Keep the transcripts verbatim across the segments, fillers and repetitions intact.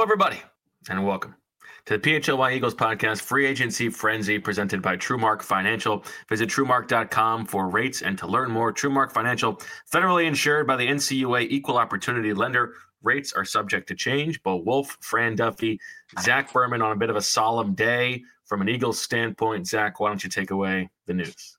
everybody, and welcome to the P H L Y Eagles podcast, Free Agency Frenzy, presented by TrueMark Financial. Visit TrueMark dot com for rates and to learn more. TrueMark Financial, federally insured by the N C U A, equal opportunity lender. Rates are subject to change. Bo Wolf, Fran Duffy, Zach Berman on a bit of a solemn day. From an Eagles standpoint, Zach, why don't you take away the news?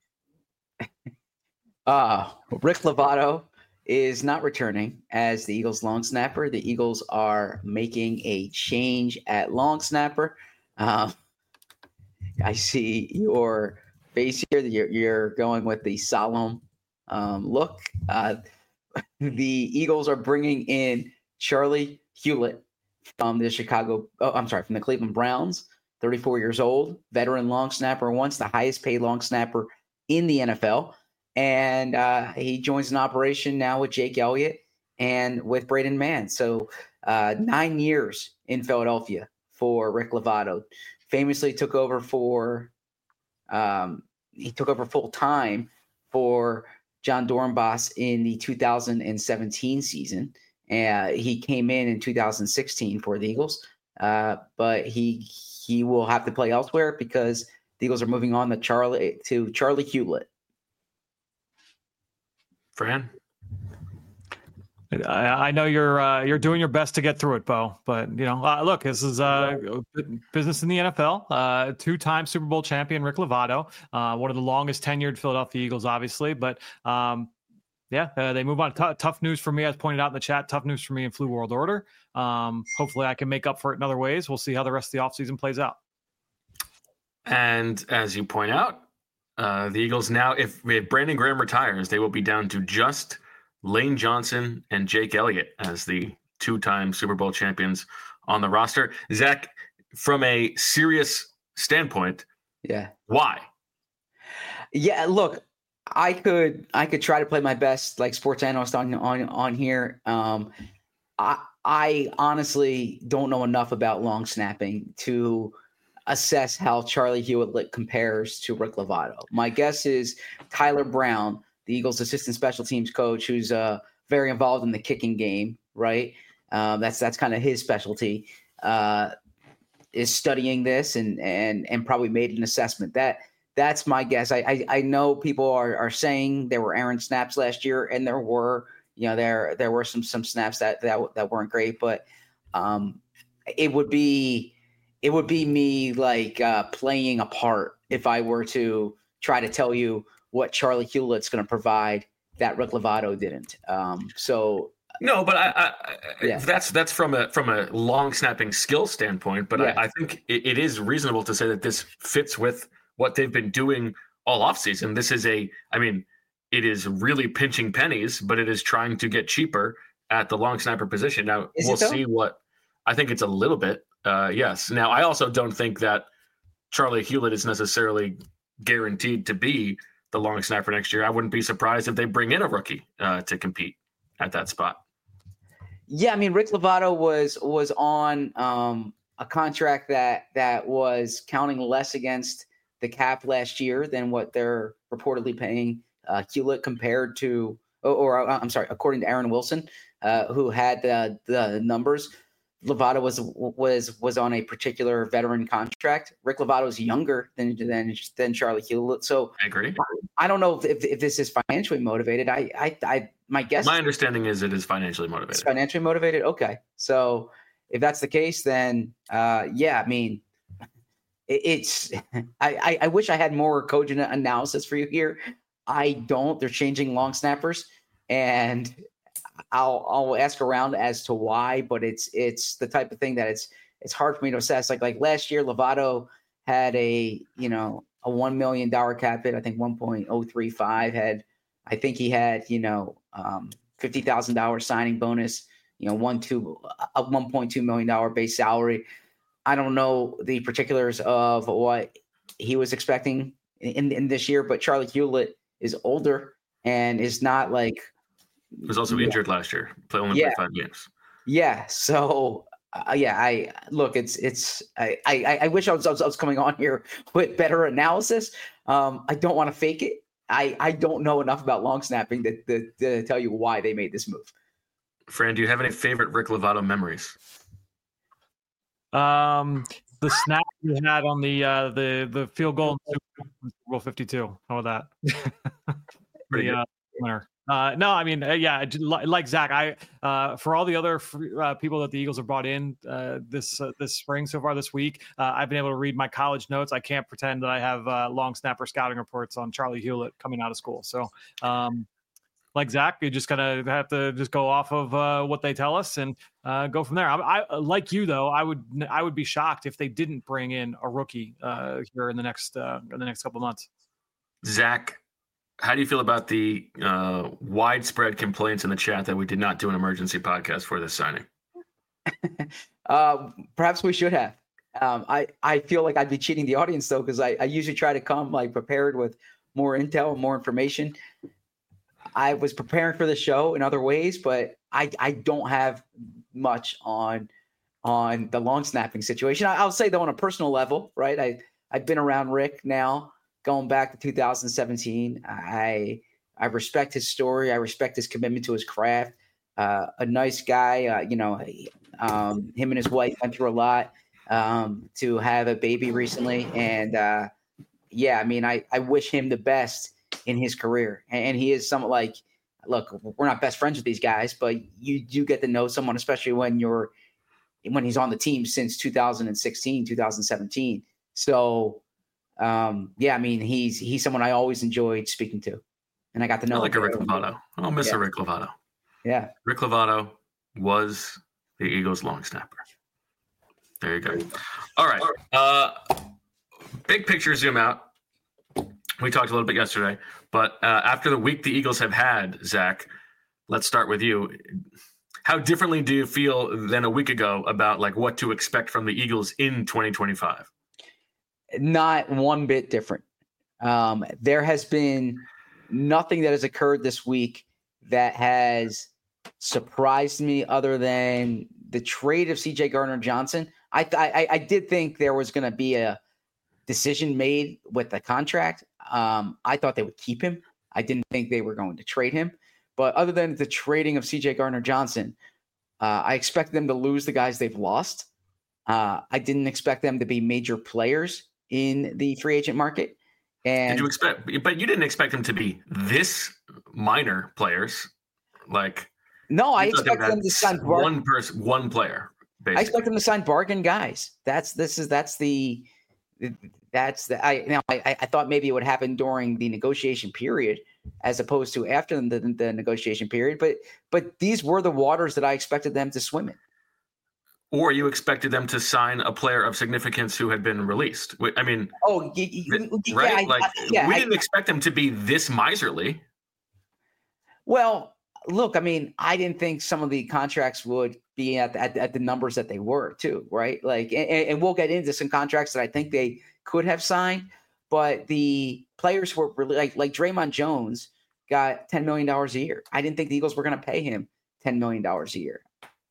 Uh, Rick Lovato is not returning as the Eagles long snapper. The Eagles are making a change at long snapper. Uh, I see your face here. You're, you're going with the solemn um, look. Uh, the Eagles are bringing in Charlie Hewlett from the Chicago, oh, I'm sorry, from the Cleveland Browns, thirty-four years old, veteran long snapper, once the highest paid long snapper in the N F L. And uh, he joins an operation now with Jake Elliott and with Braden Mann. So uh, nine years in Philadelphia for Rick Lovato. Famously took over for um, he took over full time for John Dornbos in the two thousand seventeen season. Uh, he came in in two thousand sixteen for the Eagles, uh, but he he will have to play elsewhere because the Eagles are moving on to Charlie to Charlie Hewlett. Fran? I, I know you're uh, you're doing your best to get through it, Bo. But you know, uh, look, this is uh, business in the N F L. Uh, two-time Super Bowl champion Rick Lovato, uh, one of the longest tenured Philadelphia Eagles, obviously. But um, yeah, uh, they move on. T- tough news for me, as pointed out in the chat. Tough news for me in Flu World Order. Um, hopefully, I can make up for it in other ways. We'll see how the rest of the offseason plays out. And as you point out, uh, the Eagles now, if, if Brandon Graham retires, they will be down to just Lane Johnson and Jake Elliott as the two-time Super Bowl champions on the roster. Zach, from a serious standpoint, yeah, why? Yeah, look, I could I could try to play my best like sports analyst on on on here. Um, I I honestly don't know enough about long snapping to assess how Charlie Hewlett compares to Rick Lovato. My guess is Tyler Brown, the Eagles' assistant special teams coach, who's uh, very involved in the kicking game, right? Um, that's that's kind of his specialty. Uh, is studying this and and and probably made an assessment. That that's my guess. I I, I know people are are saying there were errant snaps last year, and there were you know there there were some some snaps that that that weren't great, but um, it would be. It would be me like uh, playing a part if I were to try to tell you what Charlie Hewlett's going to provide that Rick Lovato didn't. Um, so no, but I, I yeah. that's that's from a from a long snapping skill standpoint. But yeah. I, I think it, it is reasonable to say that this fits with what they've been doing all offseason. This is a, I mean, it is really pinching pennies, but it is trying to get cheaper at the long snapper position. Now is we'll see what. I think it's a little bit. Uh, yes. Now, I also don't think that Charlie Hewlett is necessarily guaranteed to be the long snapper next year. I wouldn't be surprised if they bring in a rookie uh, to compete at that spot. Yeah, I mean, Rick Lovato was was on um, a contract that that was counting less against the cap last year than what they're reportedly paying uh, Hewlett compared to, or, or I'm sorry, according to Aaron Wilson, uh, who had the, the numbers. Lovato was was was on a particular veteran contract. Rick Lovato is younger than than than Charlie Hewlett, so I agree. I don't know if if this is financially motivated. I I, I my guess. My understanding is it is financially motivated. It's financially motivated. Okay, so if that's the case, then uh, yeah, I mean, it, it's. I, I I wish I had more cogent analysis for you here. I don't. They're changing long snappers, and I'll I'll ask around as to why, but it's it's the type of thing that it's it's hard for me to assess. Like like last year, Lovato had a you know a one million dollar cap hit. I think one point oh three five had. I think he had you know um, fifty thousand dollars signing bonus. You know one two a one point two million dollar base salary. I don't know the particulars of what he was expecting in in this year, but Charlie Hewlett is older and is not like. He was also yeah. injured last year. Play only yeah. played five games. Yeah. So uh, yeah, I look. It's it's. I I, I wish I was, I was I was coming on here with better analysis. Um, I don't want to fake it. I I don't know enough about long snapping to, to, to tell you why they made this move. Fran, do you have any favorite Rick Lovato memories? Um, the snap we had on the uh, the the field goal in Super Bowl fifty-two. How about that? the uh, winner. Uh, no, I mean, uh, yeah, like Zach, I uh, for all the other uh, people that the Eagles have brought in uh, this uh, this spring so far this week, uh, I've been able to read my college notes. I can't pretend that I have uh, long snapper scouting reports on Charlie Hewlett coming out of school. So, um, like Zach, you just kind of have to just go off of uh, what they tell us and uh, go from there. I, I like you though. I would I would be shocked if they didn't bring in a rookie uh, here in the next uh, in the next couple of months. Zach, how do you feel about the uh, widespread complaints in the chat that we did not do an emergency podcast for this signing? uh, perhaps we should have. Um, I, I feel like I'd be cheating the audience, though, because I, I usually try to come like prepared with more intel and more information. I was preparing for the show in other ways, but I, I don't have much on on the long snapping situation. I, I'll say, though, on a personal level, right, I, I've been around Rick now going back to two thousand seventeen. I I respect his story. I respect his commitment to his craft. Uh, a nice guy. Uh, you know, um, him and his wife went through a lot um, to have a baby recently. And, uh, yeah, I mean, I, I wish him the best in his career. And, and he is somewhat like, look, we're not best friends with these guys, but you do get to know someone, especially when you're when he's on the team since two thousand sixteen, two thousand seventeen. So, Um, yeah, I mean, he's he's someone I always enjoyed speaking to, and I got to know. I like a Rick Lovato. I'll miss yeah. a Rick Lovato. Yeah, Rick Lovato was the Eagles' long snapper. There you go. All right. Uh, big picture zoom out. We talked a little bit yesterday, but uh, after the week the Eagles have had, Zach, let's start with you. How differently do you feel than a week ago about like what to expect from the Eagles in twenty twenty-five? Not one bit different. Um, there has been nothing that has occurred this week that has surprised me other than the trade of C J Gardner-Johnson. I, I, I did think there was going to be a decision made with the contract. Um, I thought they would keep him. I didn't think they were going to trade him. But other than the trading of C J Gardner-Johnson, uh, I expect them to lose the guys they've lost. Uh, I didn't expect them to be major players in the free agent market. And did you expect, but you didn't expect them to be this minor players. Like, no, I expect them to sign bar- one person, one player. Basically. I expect them to sign bargain guys. That's, this is, that's the, that's the, I, you know, I, I thought maybe it would happen during the negotiation period as opposed to after the, the negotiation period. But, but these were the waters that I expected them to swim in. Or you expected them to sign a player of significance who had been released. I mean, oh, you, you, right? Yeah, like I, yeah, we I, didn't expect them to be this miserly. Well, look, I mean, I didn't think some of the contracts would be at, at, at the numbers that they were too, right? Like, and, and we'll get into some contracts that I think they could have signed, but the players were really like, like Draymond Jones got ten million dollars a year. I didn't think the Eagles were going to pay him ten million dollars a year.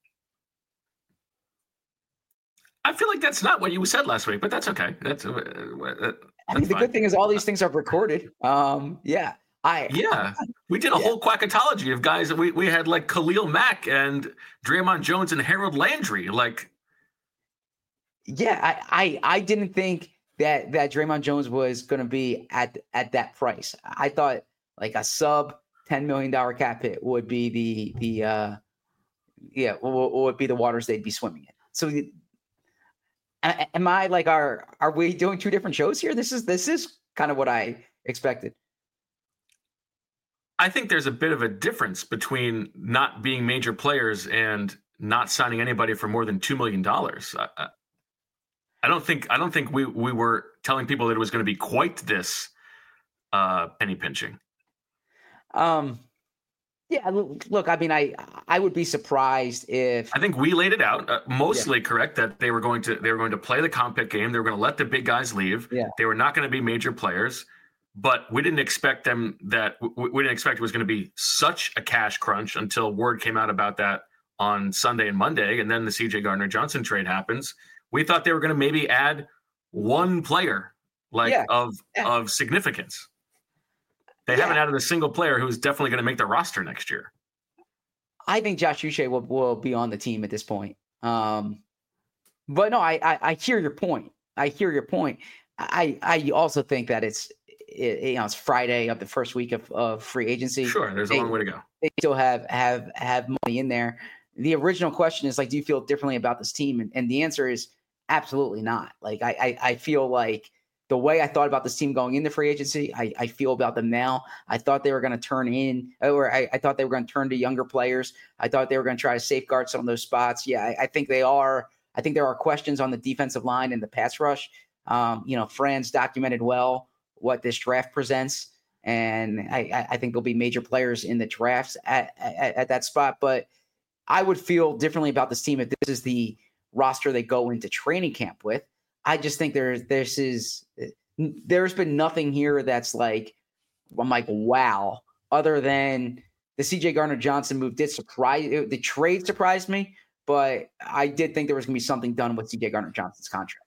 I feel like that's not what you said last week, but that's okay. That's, uh, that's I mean, the fine. good thing is all these things are recorded. Um, yeah. I yeah, we did a yeah. whole quackatology of guys that we, we had like Khalil Mack and Draymond Jones and Harold Landry. Like, yeah, I, I, I didn't think that, that Draymond Jones was going to be at, at that price. I thought like a sub ten million dollars cap hit would be the, the, uh, yeah, would, would be the waters they'd be swimming in. So am I like, are, are we doing two different shows here? This is, this is kind of what I expected. I think there's a bit of a difference between not being major players and not signing anybody for more than two million dollars. I, I don't think, I don't think we, we were telling people that it was going to be quite this uh, penny pinching. Um, yeah, look, I mean, I, I would be surprised if I think we laid it out uh, mostly yeah. correct that they were going to, they were going to play the comp pick game. They were going to let the big guys leave. Yeah. They were not going to be major players, but we didn't expect them that we didn't expect it was going to be such a cash crunch until word came out about that on Sunday and Monday. And then the C J Gardner-Johnson trade happens. We thought they were going to maybe add one player like yeah. of, yeah. of significance. They yeah. haven't added a single player who's definitely going to make the roster next year. I think Josh Uche will, will be on the team at this point. Um, but no, I, I I hear your point. I hear your point. I I also think that it's it, you know it's Friday of the first week of, of free agency. Sure, there's they, a long way to go. They still have have have money in there. The original question is like, do you feel differently about this team? And, and the answer is absolutely not. Like I, I I feel like the way I thought about this team going into free agency, I, I feel about them now. I thought they were going to turn in, or I, I thought they were going to turn to younger players. I thought they were going to try to safeguard some of those spots. Yeah, I, I think they are. I think there are questions on the defensive line and the pass rush. Um, you know, Fran's documented well what this draft presents, and I, I think there'll be major players in the drafts at, at, at that spot. But I would feel differently about this team if this is the roster they go into training camp with. I just think there's this is there's been nothing here that's like I'm like wow, other than the C J Gardner-Johnson move did surprise the trade surprised me, but I did think there was going to be something done with C J Gardner-Johnson's contract.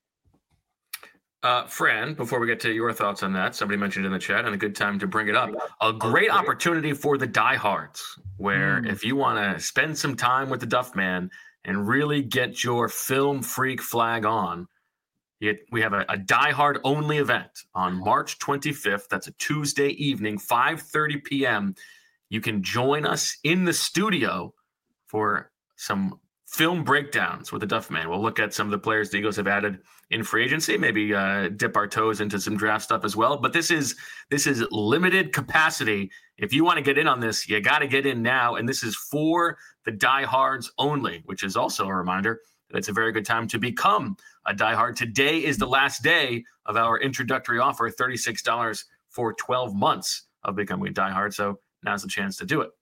Uh, Fran, before we get to your thoughts on that, somebody mentioned in the chat, and a good time to bring it up, a great opportunity for the diehards, where mm. if you want to spend some time with the Duff Man and really get your film freak flag on, you, we have a, a diehard only event on March twenty-fifth. That's a Tuesday evening, five thirty p.m. You can join us in the studio for some film breakdowns with the Duff Man. We'll look at some of the players the Eagles have added in free agency, maybe uh, dip our toes into some draft stuff as well. But this is this is limited capacity. If you want to get in on this, you got to get in now. And this is for the diehards only, which is also a reminder that it's a very good time to become a diehard. Today is the last day of our introductory offer, thirty-six dollars for twelve months of becoming a diehard. So now's the chance to do it.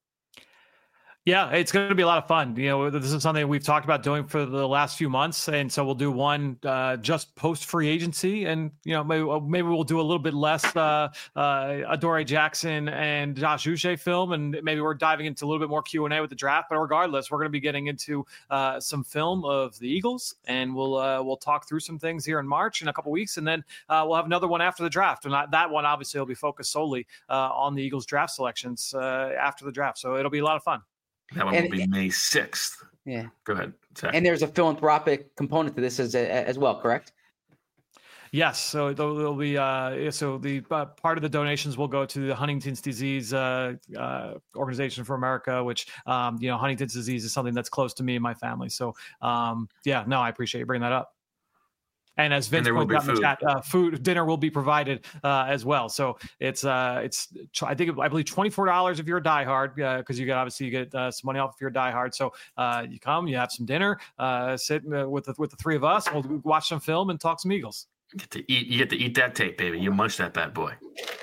Yeah, it's going to be a lot of fun. You know, this is something we've talked about doing for the last few months, and so we'll do one uh, just post free agency, and you know, maybe maybe we'll do a little bit less uh, uh, Adoree Jackson and Josh Uche film, and maybe we're diving into a little bit more Q and A with the draft. But regardless, we're going to be getting into uh, some film of the Eagles, and we'll uh, we'll talk through some things here in March in a couple weeks, and then uh, we'll have another one after the draft, and that one obviously will be focused solely uh, on the Eagles draft selections uh, after the draft. So it'll be a lot of fun. That one and, will be May sixth. Yeah. Go ahead, Zach. And there's a philanthropic component to this as as well, correct? Yes. So there'll, there'll be uh, so the uh, part of the donations will go to the Huntington's Disease uh, uh, Organization for America, which um, you know Huntington's disease is something that's close to me and my family. So um, yeah, no, I appreciate you bringing that up. And as Vince pointed out in the chat, uh, food dinner will be provided uh, as well. So it's uh, it's I think I believe twenty-four dollars if you're a diehard because uh, you get obviously you get uh, some money off if you're a diehard. So uh, you come, you have some dinner, uh, sit uh, with the, with the three of us, we'll watch some film and talk some Eagles. You get to eat. You get to eat that tape, baby. You munch that bad boy.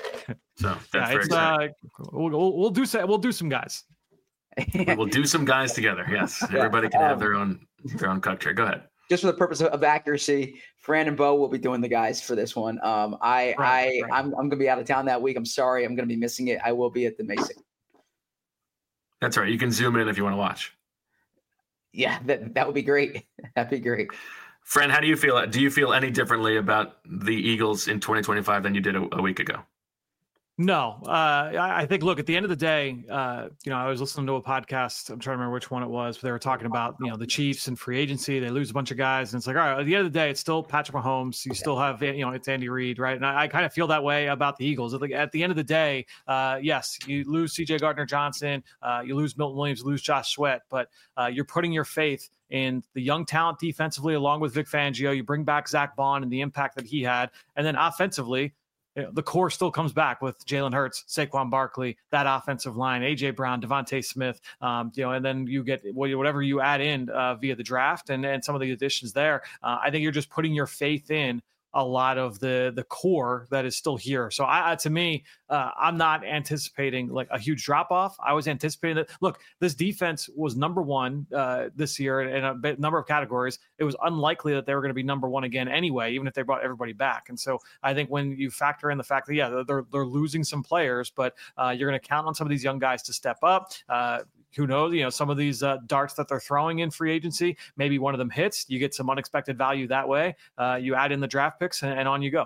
So that's yeah, very exciting. Uh, we'll, we'll, we'll do we'll do some guys. We'll do some guys together. Yes, everybody can have their own their own cocktail. Go ahead. Just for the purpose of accuracy, Fran and Bo will be doing the guys for this one. Um, I, right, I, right. I'm, I'm going to be out of town that week. I'm sorry. I'm going to be missing it. I will be at the May sixth. That's right. You can zoom in if you want to watch. Yeah, that that would be great. That'd be great. Fran, how do you feel? Do you feel any differently about the Eagles in twenty twenty-five than you did a, a week ago? No, uh, I, I think, look, at the end of the day, uh, you know, I was listening to a podcast. I'm trying to remember which one it was, but they were talking about, you know, the Chiefs and free agency. They lose a bunch of guys. And it's like, all right, at the end of the day, it's still Patrick Mahomes. You still have, you know, it's Andy Reid, right? And I, I kind of feel that way about the Eagles. At the, at the end of the day, uh, yes, you lose C J Gardner-Johnson. Uh, you lose Milton Williams, lose Josh Sweat. But uh, you're putting your faith in the young talent defensively, along with Vic Fangio. You bring back Zach Bond and the impact that he had. And then offensively, the core still comes back with Jalen Hurts, Saquon Barkley, that offensive line, A J Brown, Devontae Smith, um, you know, and then you get whatever you add in uh, via the draft and, and some of the additions there. Uh, I think you're just putting your faith in a lot of the the core that is still here. So I, to me, uh, I'm not anticipating like a huge drop off. I was anticipating that. Look, this defense was number one uh, this year in a bit, number of categories. It was unlikely that they were going to be number one again anyway, even if they brought everybody back. And so I think when you factor in the fact that yeah, they're they're losing some players, but uh, you're going to count on some of these young guys to step up. Uh, Who knows? You know, some of these uh, darts that they're throwing in free agency, maybe one of them hits. You get some unexpected value that way. Uh, you add in the draft picks, and, and on you go.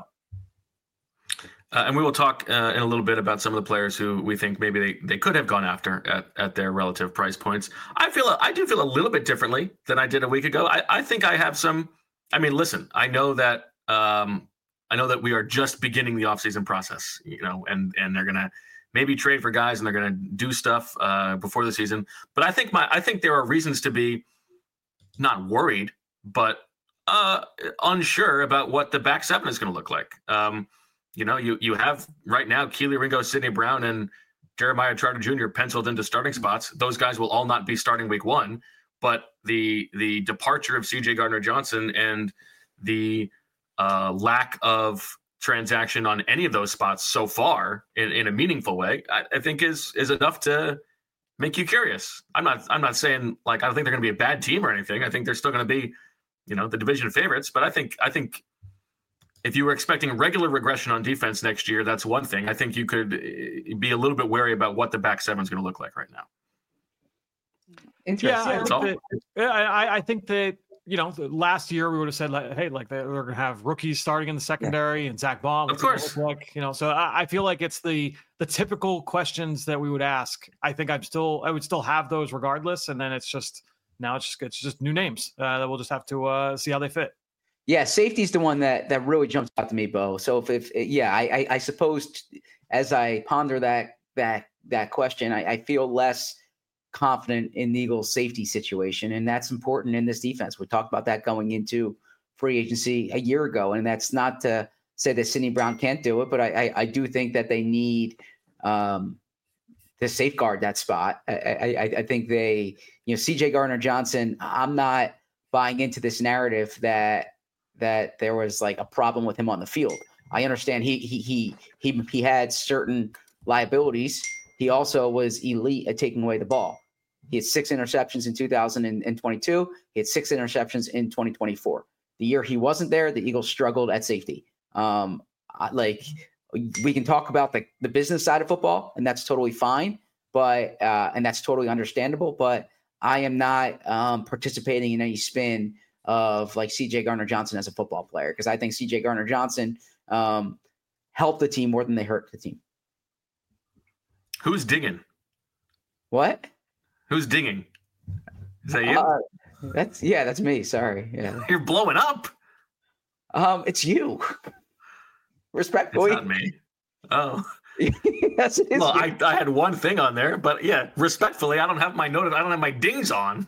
Uh, and we will talk uh, in a little bit about some of the players who we think maybe they, they could have gone after at, at their relative price points. I feel I do feel a little bit differently than I did a week ago. I, I think I have some I mean, listen, I know that um, I know that we are just beginning the offseason process, you know, and and they're gonna maybe trade for guys and they're gonna do stuff uh, before the season. But I think my I think there are reasons to be not worried, but uh, unsure about what the back seven is going to look like. Um, you know, you you have right now Keely Ringo, Sidney Brown, and Jeremiah Trotter Junior penciled into starting spots. Those guys will all not be starting week one, but the the departure of C J Gardner-Johnson and the uh, lack of transaction on any of those spots so far in, in a meaningful way, I, I think is is enough to make you curious. I'm not I'm not saying like I don't think they're going to be a bad team or anything. I think they're still going to be, you know, the division favorites. But I think I think if you were expecting regular regression on defense next year, that's one thing. I think you could be a little bit wary about what the back seven is going to look like right now. Interesting. Yeah, I think, that, I, I think that, you know, last year we would have said, like, hey, like they're going to have rookies starting in the secondary, yeah. and Zach Baum. Of course. Like, you know, so I, I feel like it's the the typical questions that we would ask. I think I'm still, I would still have those regardless. And then it's just, now it's just, it's just new names uh, that we'll just have to uh, see how they fit. Yeah, safety's the one that that really jumps out to me, Bo. So if, if yeah, I, I, I suppose as I ponder that that that question, I, I feel less confident in the Eagles' safety situation, and that's important in this defense. We talked about that going into free agency a year ago, and that's not to say that Sidney Brown can't do it, but I I, I do think that they need um, to safeguard that spot. I, I I think they, you know, C J Gardner-Johnson. I'm not buying into this narrative that. that there was like a problem with him on the field. I understand he he he he he had certain liabilities. He also was elite at taking away the ball. He had six interceptions in two thousand twenty-two. He had six interceptions in twenty twenty-four. The year he wasn't there, the Eagles struggled at safety. Um, like we can talk about the, the business side of football, and that's totally fine, but uh, and that's totally understandable. But I am not um, participating in any spin of like C J Gardner-Johnson as a football player, because I think C J Gardner-Johnson um, helped the team more than they hurt the team. Who's dinging? What? Who's dinging? Is that you? Uh, that's yeah, that's me. Sorry. Yeah. You're blowing up. Um, it's you. Respectfully. It's not me. Oh. Yes, it is. Well, I, I had one thing on there, but yeah, respectfully, I don't have my note. I don't have my dings on.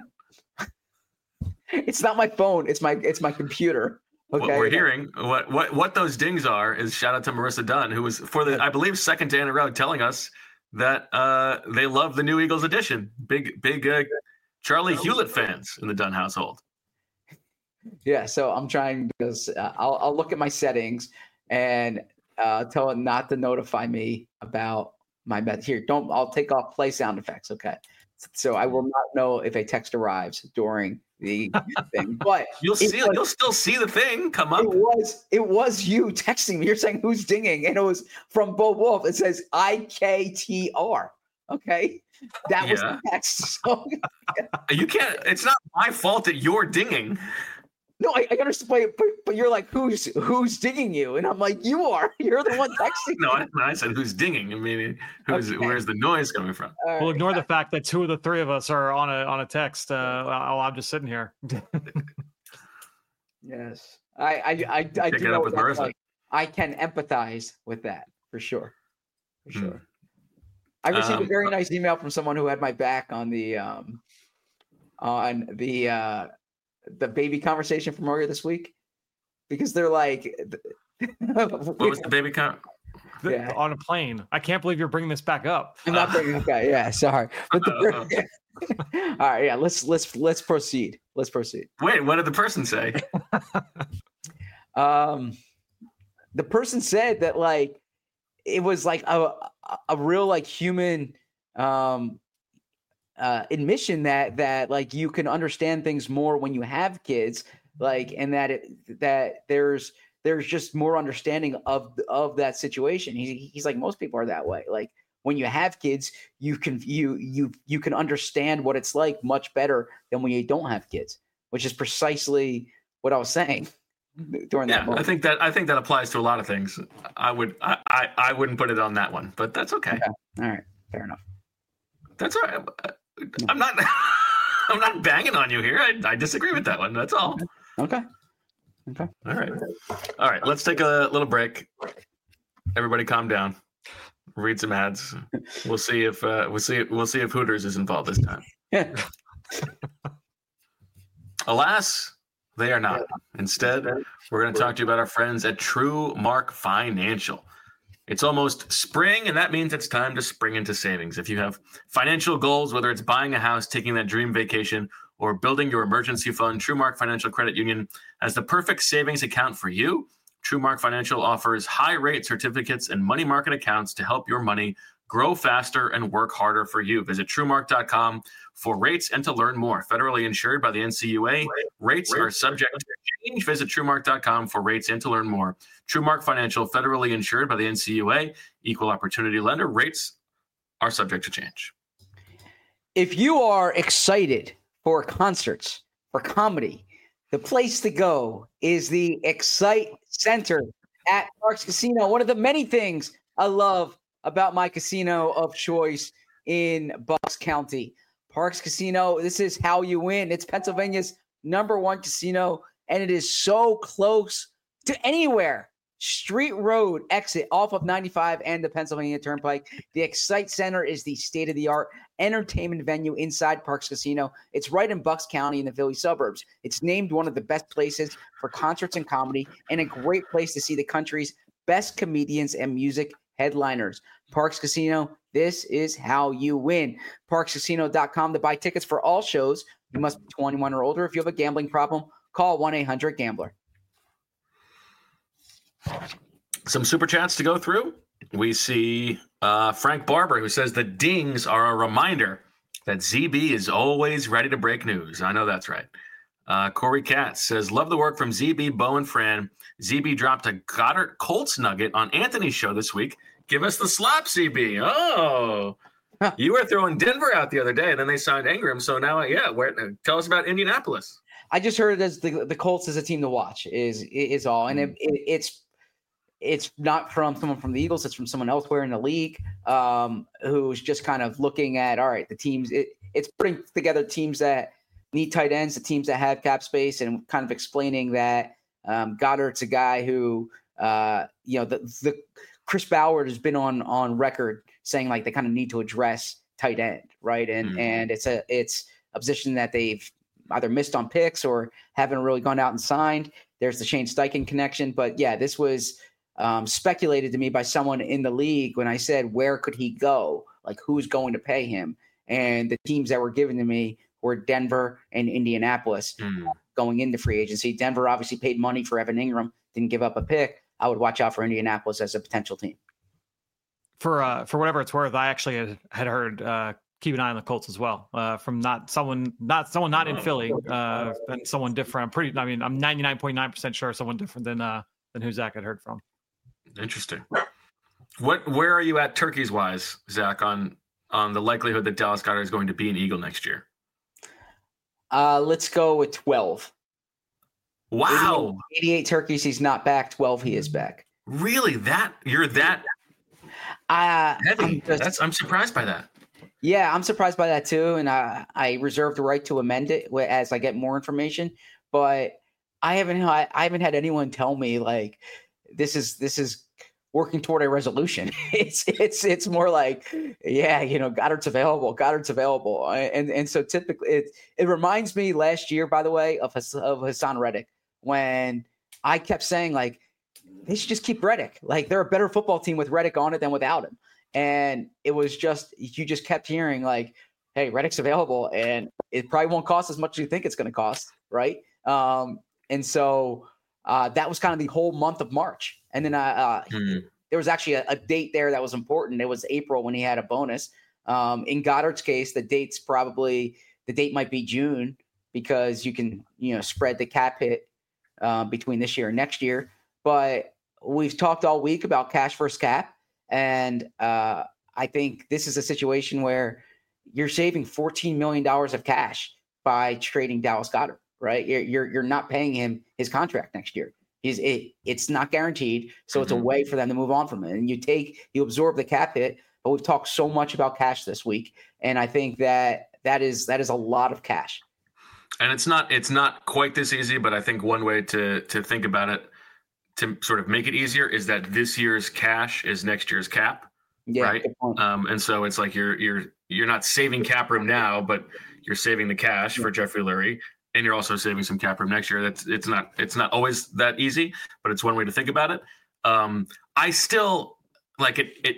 It's not my phone. It's my it's my computer. Okay. What we're hearing, what what what those dings are, is shout out to Marissa Dunn, who was for the I believe second day in a row telling us that uh, they love the new Eagles edition. Big big uh, Charlie Hewlett fans in the Dunn household. Yeah, so I'm trying because uh, I'll I'll look at my settings and uh, tell it not to notify me about my bet. Here, don't I'll take off play sound effects. Okay, so I will not know if a text arrives during the thing, but you'll see was, you'll still see the thing come up. It was it was you texting me. You're saying who's dinging, and it was from Bo Wolf. It says I K T R. Okay, that was yeah. the text. So, you can't. It's not my fault that you're dinging. No, I, I understand, but, but you're like, who's who's dinging you? And I'm like, you are. You're the one texting. No, me. I, I said who's dinging. I mean, who's okay. Where's the noise coming from? Right. We'll ignore the fact that two of the three of us are on a on a text uh, while I'm just sitting here. Yes, I I I, I do know that, like, I can empathize with that for sure, for sure. Hmm. I received um, a very nice email from someone who had my back on the um on the. Uh, the baby conversation from earlier this week, because they're like, what was the baby con? Yeah. On a plane. I can't believe you're bringing this back up. I'm not bringing it back. Yeah, sorry. But the, all right, yeah. Let's let's let's proceed. Let's proceed. Wait, what did the person say? um, the person said that like it was like a a real like human um. Uh, admission that that like you can understand things more when you have kids, like, and that it that there's there's just more understanding of of that situation. He, he's like, most people are that way. Like when you have kids, you can you you you can understand what it's like much better than when you don't have kids, which is precisely what I was saying during yeah, that moment. I think that I think that applies to a lot of things. I would I I, I wouldn't put it on that one, but that's okay. okay. All right, fair enough. That's all right. I'm not I'm not banging on you here. I, I disagree with that one. That's all. Okay. Okay. All right. All right. Let's take a little break. Everybody calm down. Read some ads. We'll see if uh, we'll see we'll see if Hooters is involved this time. Alas, they are not. Instead, we're going to talk to you about our friends at True Mark Financial. It's almost spring, and that means it's time to spring into savings. If you have financial goals, whether it's buying a house, taking that dream vacation, or building your emergency fund, True Mark Financial Credit Union has the perfect savings account for you. True Mark Financial offers high-rate certificates and money market accounts to help your money grow faster and work harder for you. Visit truemark dot com for rates and to learn more. Federally insured by the N C U A. Rates are subject to change. Visit truemark dot com for rates and to learn more. TrueMark Financial, federally insured by the N C U A. Equal opportunity lender. Rates are subject to change. If you are excited for concerts, for comedy, the place to go is the Excite Center at Parx Casino. One of the many things I love about my casino of choice in Bucks County. Parx Casino, this is how you win. It's Pennsylvania's number one casino, and it is so close to anywhere. Street Road exit off of ninety-five and the Pennsylvania Turnpike. The Excite Center is the state-of-the-art entertainment venue inside Parx Casino. It's right in Bucks County in the Philly suburbs. It's named one of the best places for concerts and comedy, and a great place to see the country's best comedians and music headliners. Parx Casino, this is how you win. Parx Casino dot com to buy tickets for all shows. You must be twenty-one or older. If you have a gambling problem, call one eight hundred gambler. Some super chats to go through. We see uh, Frank Barber, who says the dings are a reminder that Z B is always ready to break news. I know that's right. Uh, Corey Katz says, love the work from Z B, Bo, and Fran. Z B dropped a Goddard Colts nugget on Anthony's show this week. Give us the slop, Z B. Oh, you were throwing Denver out the other day, and then they signed Ingram. So now, yeah, where, tell us about Indianapolis. I just heard it as the, the Colts is a team to watch is is all. And it, it, it's it's not from someone from the Eagles. It's from someone elsewhere in the league um, who's just kind of looking at, all right, the teams. It, it's putting together teams that need tight ends, the teams that have cap space, and kind of explaining that um, Goddard's a guy who, uh, you know, the, the Chris Ballard has been on on record saying like they kind of need to address tight end, right? And mm-hmm. and it's a it's a position that they've either missed on picks or haven't really gone out and signed. There's the Shane Steichen connection, but yeah, this was um, speculated to me by someone in the league when I said, where could he go? Like, who's going to pay him? And the teams that were given to me were Denver and Indianapolis mm. going into free agency. Denver obviously paid money for Evan Ingram, didn't give up a pick. I would watch out for Indianapolis as a potential team. For uh, for whatever it's worth, I actually had, had heard uh, keep an eye on the Colts as well. Uh, from not someone, not someone not in Philly, uh, and someone different. I'm pretty. I mean, I'm ninety-nine point nine percent sure someone different than uh, than who Zach had heard from. Interesting. What? Where are you at turkeys wise, Zach, on on the likelihood that Dallas Goedert is going to be an Eagle next year? Uh, let's go with twelve. Wow. eighty-eight, eighty-eight turkeys. He's not back. twelve. He is back. Really? That you're that uh, heavy? I'm just, That's I'm surprised by that. Yeah, I'm surprised by that too, and I I reserve the right to amend it as I get more information. But I haven't I haven't had anyone tell me like this is this is working toward a resolution. It's it's it's more like, yeah, you know, Goddard's available. Goddard's available, and and so typically it it reminds me last year, by the way, of of Hassan Reddick when I kept saying like they should just keep Reddick. Like they're a better football team with Reddick on it than without him. And it was just you just kept hearing like, hey, Reddick's available, and it probably won't cost as much as you think it's going to cost, right? Um, and so uh, that was kind of the whole month of March. And then uh, uh, mm. there was actually a, a date there that was important. It was April when he had a bonus. Um, in Goddard's case, the date's probably the date might be June because you can you know spread the cap hit uh, between this year and next year. But we've talked all week about cash versus cap. And uh, I think this is a situation where you're saving fourteen million dollars of cash by trading Dallas Goedert, right? You're you're, you're not paying him his contract next year. He's it, it's not guaranteed, so mm-hmm. it's a way for them to move on from it. And you take you absorb the cap hit, but we've talked so much about cash this week, and I think that that is that is a lot of cash. And it's not it's not quite this easy, but I think one way to to think about it to sort of make it easier is that this year's cash is next year's cap, Yeah, right? Um, and so it's like you're you're you're not saving cap room now, but you're saving the cash for Jeffrey Lurie, and you're also saving some cap room next year. That's it's not it's not always that easy, but it's one way to think about it. Um, I still like it. It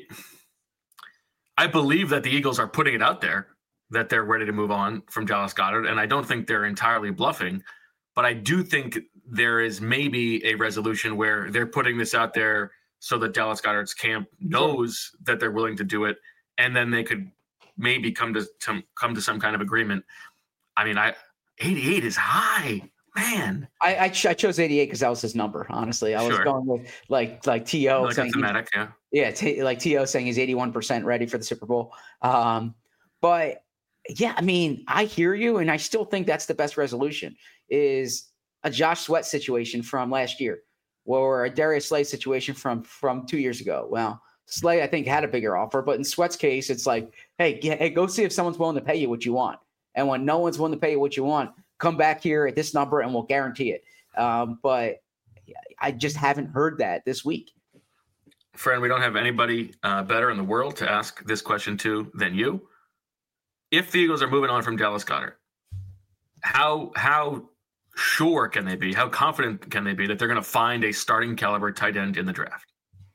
I believe that the Eagles are putting it out there that they're ready to move on from Dallas Goedert, and I don't think they're entirely bluffing, but I do think there is maybe a resolution where they're putting this out there so that Dallas Goedert's camp knows that they're willing to do it, and then they could maybe come to, to come to some kind of agreement. I mean, I eighty-eight is high, man. I I, ch- I chose eighty-eight because that was his number. Honestly, I was Sure. going with like like T O Like a saying thematic, yeah. yeah, t- like T O saying he's eighty-one percent ready for the Super Bowl. Um, but yeah, I mean, I hear you, and I still think that's the best resolution is a Josh Sweat situation from last year, or a Darius Slay situation from from two years ago. Well, Slay, I think, had a bigger offer, but in Sweat's case, it's like, hey, get, hey, go see if someone's willing to pay you what you want. And when no one's willing to pay you what you want, come back here at this number, and we'll guarantee it. Um, but I just haven't heard that this week. Friend, we don't have anybody uh, better in the world to ask this question to than you. If the Eagles are moving on from Dallas Goedert, how how sure can they be? How confident can they be that they're going to find a starting caliber tight end in the draft?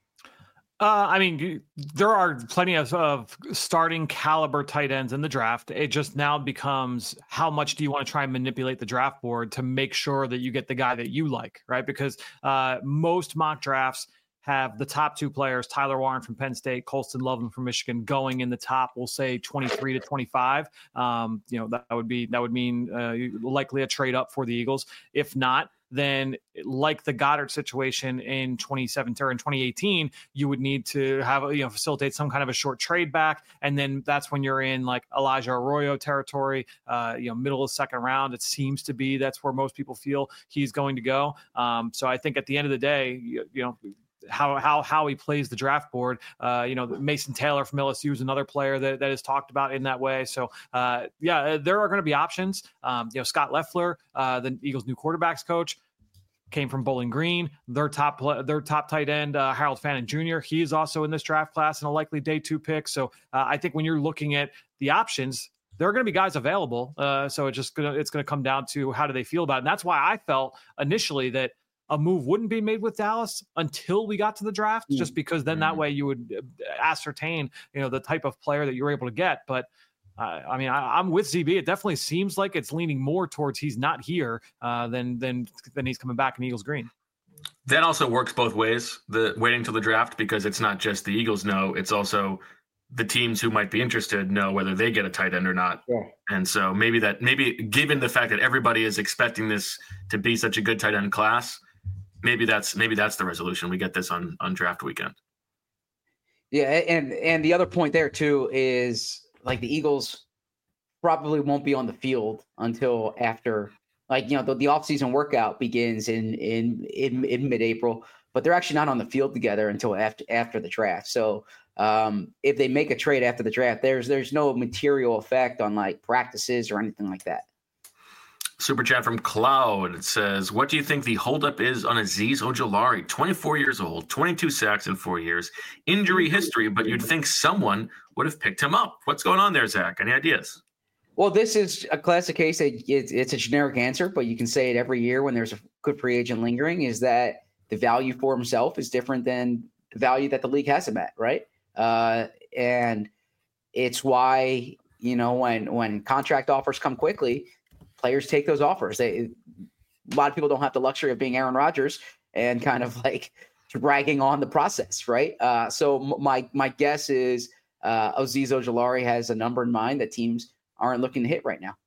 Uh, I mean, there are plenty of, of starting caliber tight ends in the draft. It just now becomes how much do you want to try and manipulate the draft board to make sure that you get the guy that you like, right? Because uh, most mock drafts have the top two players, Tyler Warren from Penn State, Colston Loveland from Michigan, going in the top, we'll say twenty-three to twenty-five. Um, you know, that would be, that would mean uh, likely a trade up for the Eagles. If not, then like the Goddard situation in twenty seventeen or in twenty eighteen, you would need to have, you know, facilitate some kind of a short trade back. And then that's when you're in like Elijah Arroyo territory, uh, you know, middle of second round. It seems to be, that's where most people feel he's going to go. Um, so I think at the end of the day, you, you know, how how how he plays the draft board. Uh, you know, Mason Taylor from L S U is another player that, that is talked about in that way. So, uh, yeah, there are going to be options. Um, you know, Scott Leffler, uh, the Eagles' new quarterbacks coach, came from Bowling Green. Their top their top tight end, uh, Harold Fannin Junior He is also in this draft class and a likely day two pick. So, uh, I think when you're looking at the options, there are going to be guys available. Uh, so it's just gonna it's going to come down to how do they feel about it. And that's why I felt initially that a move wouldn't be made with Dallas until we got to the draft, mm-hmm. just because then that way you would ascertain, you know, the type of player that you were able to get. But uh, I mean, I, I'm with Z B. It definitely seems like it's leaning more towards he's not here uh, than than than he's coming back in Eagles green. That also works both ways. The waiting till the draft, because it's not just the Eagles know, it's also the teams who might be interested know whether they get a tight end or not. Yeah. And so maybe that maybe given the fact that everybody is expecting this to be such a good tight end class, Maybe that's maybe that's the resolution. We get this on, on draft weekend. Yeah, and and the other point there too is like the Eagles probably won't be on the field until after, like, you know, the, the offseason workout begins in in in, in mid-April, but they're actually not on the field together until after after the draft. So um, if they make a trade after the draft, there's there's no material effect on like practices or anything like that. Super chat from Cloud. It says, what do you think the holdup is on Azeez Ojulari? twenty-four years old, twenty-two sacks in four years, injury history, but you'd think someone would have picked him up. What's going on there, Zach? Any ideas? Well, this is a classic case. That it's, it's a generic answer, but you can say it every year when there's a good free agent lingering, is that the value for himself is different than the value that the league has him at, right? Uh, and it's why, you know, when when contract offers come quickly, players take those offers. They, a lot of people don't have the luxury of being Aaron Rodgers and kind of like dragging on the process, right? Uh, so my my guess is uh, Azeez Ojulari has a number in mind that teams aren't looking to hit right now.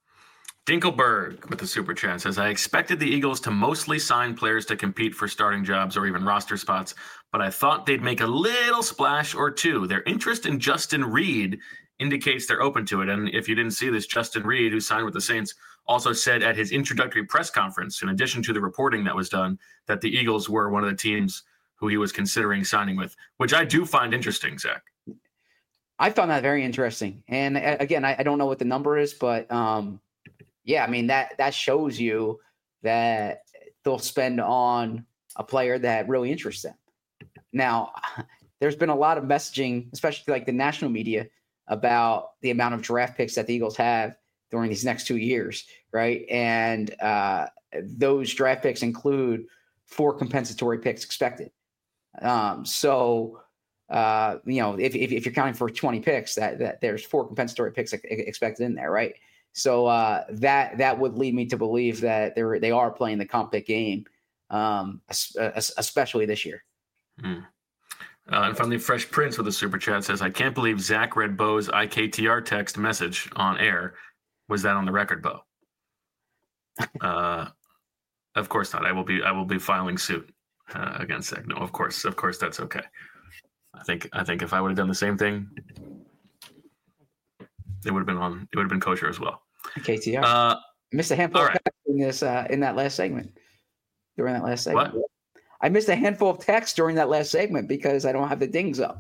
Dinkelberg with the super chat says, I expected the Eagles to mostly sign players to compete for starting jobs or even roster spots, but I thought they'd make a little splash or two. Their interest in Justin Reed indicates they're open to it. And if you didn't see this, Justin Reed, who signed with the Saints, also said at his introductory press conference, in addition to the reporting that was done, that the Eagles were one of the teams who he was considering signing with, which I do find interesting, Zach. I found that very interesting. And again, I, I don't know what the number is, but um, Yeah, I mean, that that shows you that they'll spend on a player that really interests them. Now, there's been a lot of messaging, especially like the national media, about the amount of draft picks that the Eagles have during these next two years, right? And uh, those draft picks include four compensatory picks expected. Um, so, uh, you know, if, if, if you're counting for twenty picks, that, that there's four compensatory picks expected in there, right? So uh, that that would lead me to believe that they they are playing the comp pick game, um, especially this year. Mm. Uh, and finally, Fresh Prince with a super chat says, "I can't believe Zach read Bo's I K T R text message on air. Was that on the record, Bo?" uh, of course not. I will be I will be filing suit uh, against Zach. No, of course, of course, that's okay. I think I think if I would have done the same thing, it would have been on. It would have been kosher as well. K T R. Uh, missed a handful all of right. texts in this uh, in that last segment. During that last segment, What? I missed a handful of texts during that last segment because I don't have the dings up.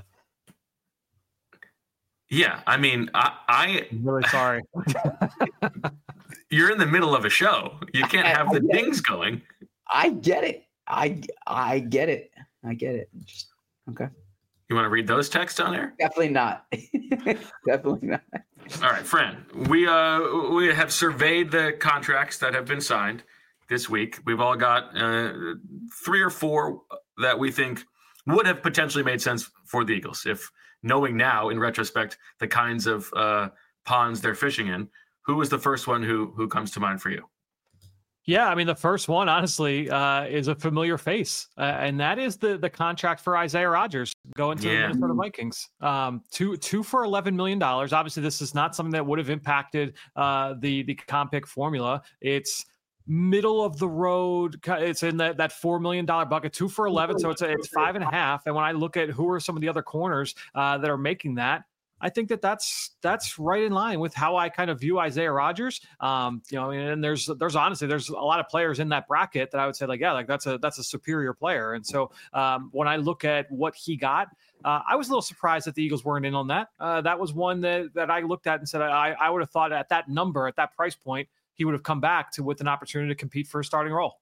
Yeah, I mean, I, I I'm really sorry. You're in the middle of a show. You can't have the dings going. I get it. I I get it. I get it. Just, okay. You want to read those texts on air? Definitely not. Definitely not. All right, Fran. We uh we have surveyed the contracts that have been signed this week. We've all got uh, three or four that we think would have potentially made sense for the Eagles if knowing now in retrospect the kinds of uh, ponds they're fishing in. Who was the first one who who comes to mind for you? Yeah, I mean, the first one, honestly, uh, is a familiar face, uh, and that is the the contract for Isaiah Rodgers going to Yeah. the Minnesota Vikings. Um, two two for eleven million dollars. Obviously, this is not something that would have impacted uh, the the comp pick formula. It's middle of the road. It's in that that four million dollar bucket. Two for eleven, so it's a, it's five and a half. And when I look at who are some of the other corners uh, that are making that, I think that that's that's right in line with how I kind of view Isaiah Rodgers. Um, you know, and there's there's honestly there's a lot of players in that bracket that I would say like yeah, like that's a that's a superior player. And so um, when I look at what he got, uh, I was a little surprised that the Eagles weren't in on that. Uh, that was one that that I looked at and said I I would have thought at that number at that price point he would have come back to with an opportunity to compete for a starting role.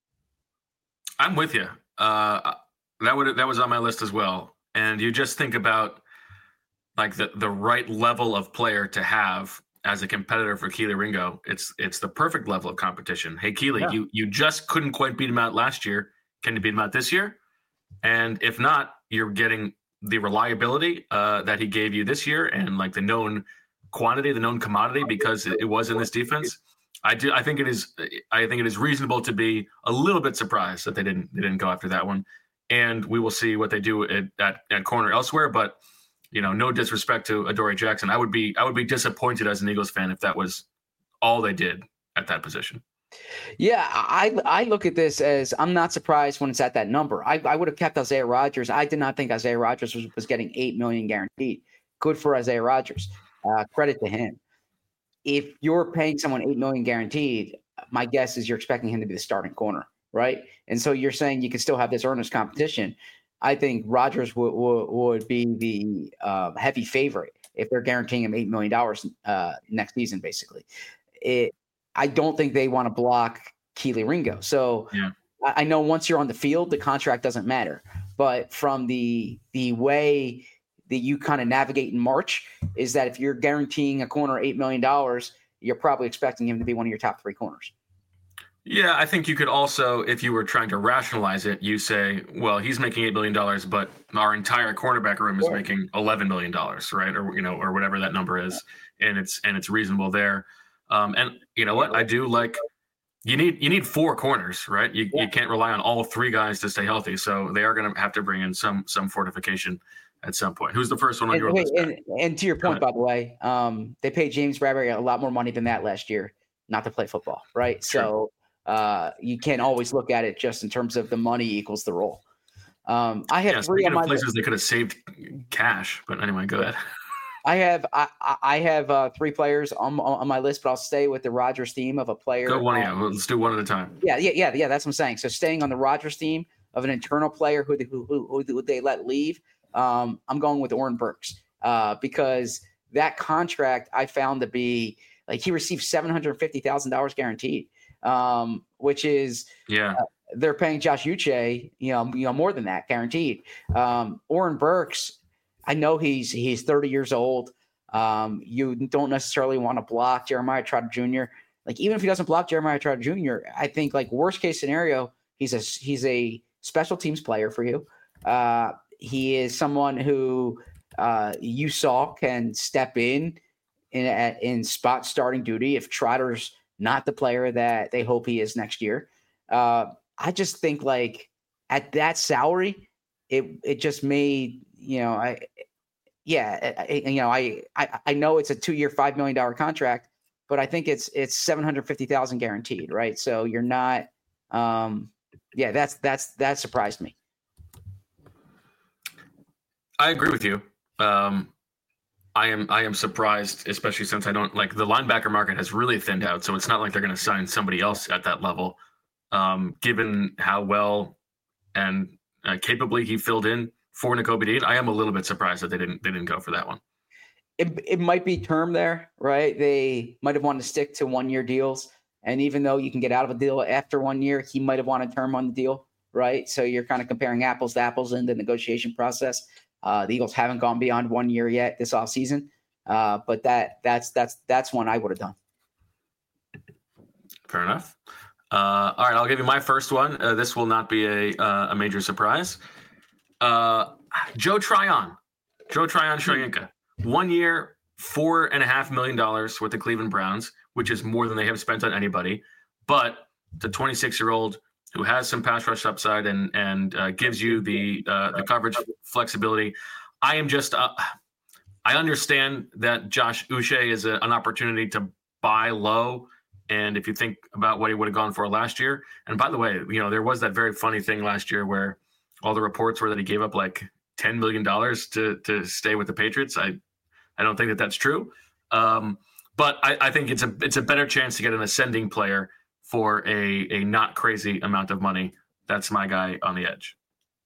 I'm with you. Uh, that would that was on my list as well. And you just think about like the, the right level of player to have as a competitor for Kelee Ringo. It's it's the perfect level of competition. Hey, Kelee, yeah. you you just couldn't quite beat him out last year. Can you beat him out this year? And if not, you're getting the reliability uh, that he gave you this year and like the known quantity, the known commodity, because it, it was in this defense. I do. I think it is. I think it is reasonable to be a little bit surprised that they didn't they didn't go after that one. And we will see what they do at at, at corner elsewhere. But you know, no disrespect to Adoree Jackson. I would be I would be disappointed as an Eagles fan if that was all they did at that position. Yeah, I I look at this as I'm not surprised when it's at that number. I, I would have kept Isaiah Rodgers. I did not think Isaiah Rodgers was, was getting eight million dollars guaranteed. Good for Isaiah Rodgers. Uh, credit to him. If you're paying someone eight million dollars guaranteed, my guess is you're expecting him to be the starting corner, right? And so you're saying you can still have this earnest competition. I think Rodgers would would, would be the uh, heavy favorite if they're guaranteeing him eight million dollars uh, next season, basically. It, I don't think they want to block Kelee Ringo. So yeah. I, I know once you're on the field, the contract doesn't matter. But from the the way that you kind of navigate in March is that if you're guaranteeing a corner eight million dollars, you're probably expecting him to be one of your top three corners. Yeah, I think you could also, if you were trying to rationalize it, you say, well, he's making eight million dollars, but our entire cornerback room is sure. making eleven million dollars, right? Or, you know, or whatever that number is. And it's, and it's reasonable there. Um, and you know what? I do like, you need, you need four corners, right? You, yeah. you can't rely on all three guys to stay healthy. So they are going to have to bring in some, some fortification at some point. Who's the first one on and, your wait, list? And, and to your point, by the way, um, they paid James Bradberry a lot more money than that last year, not to play football, right? Sure. So uh, you can't always look at it just in terms of the money equals the role. Um, I have yeah, three on my places list. They could have saved cash, but anyway, go ahead. I have I, I have uh, three players on on my list, but I'll stay with the Rodgers theme of a player. Go one, um, yeah. Let's do one at a time. Yeah, yeah, yeah, yeah. That's what I'm saying. So staying on the Rodgers theme of an internal player who who who, who they let leave. Um, I'm going with Oren Burks uh, because that contract I found to be like he received seven hundred fifty thousand dollars guaranteed, um, which is yeah. Uh, they're paying Josh Uche, you know, you know, more than that guaranteed. Um, Oren Burks, I know he's he's thirty years old. Um, you don't necessarily want to block Jeremiah Trotter Junior Like even if he doesn't block Jeremiah Trotter Junior, I think like worst case scenario, he's a he's a special teams player for you. Uh, he is someone who uh, you saw can step in in at, in spot starting duty if Trotter's not the player that they hope he is next year. Uh, I just think like at that salary, it it just made, you know, I yeah, I, you know, I, I I know it's a two year, five million dollar contract, but I think it's it's seven hundred fifty thousand guaranteed, right? So you're not, um, yeah, that's that's that surprised me. I agree with you. Um, I am I am surprised, especially since I don't like the linebacker market has really thinned out, so it's not like they're going to sign somebody else at that level. Um, given how well and uh, capably he filled in for Nakobe Dean, I am a little bit surprised that they didn't they didn't go for that one. It it might be term there, right? They might have wanted to stick to one year deals, and even though you can get out of a deal after one year, he might have wanted term on the deal, right? So you're kind of comparing apples to apples in the negotiation process. Uh, the Eagles haven't gone beyond one year yet this offseason, uh, but that that's that's that's one I would have done. Fair enough. Uh, all right, I'll give you my first one. Uh, this will not be a uh, a major surprise. Uh, Joe Tryon, Joe Tryon Shoyinka, one year, four and a half million dollars with the Cleveland Browns, which is more than they have spent on anybody. But the twenty-six year old who has some pass rush upside and and uh, gives you the uh, the coverage flexibility. I am just uh, I understand that Josh Uche is a, an opportunity to buy low. And if you think about what he would have gone for last year, and by the way, you know, there was that very funny thing last year where all the reports were that he gave up like ten million dollars to to stay with the Patriots. I I don't think that that's true. Um, but I, I think it's a it's a better chance to get an ascending player for a a not crazy amount of money. That's my guy on the edge.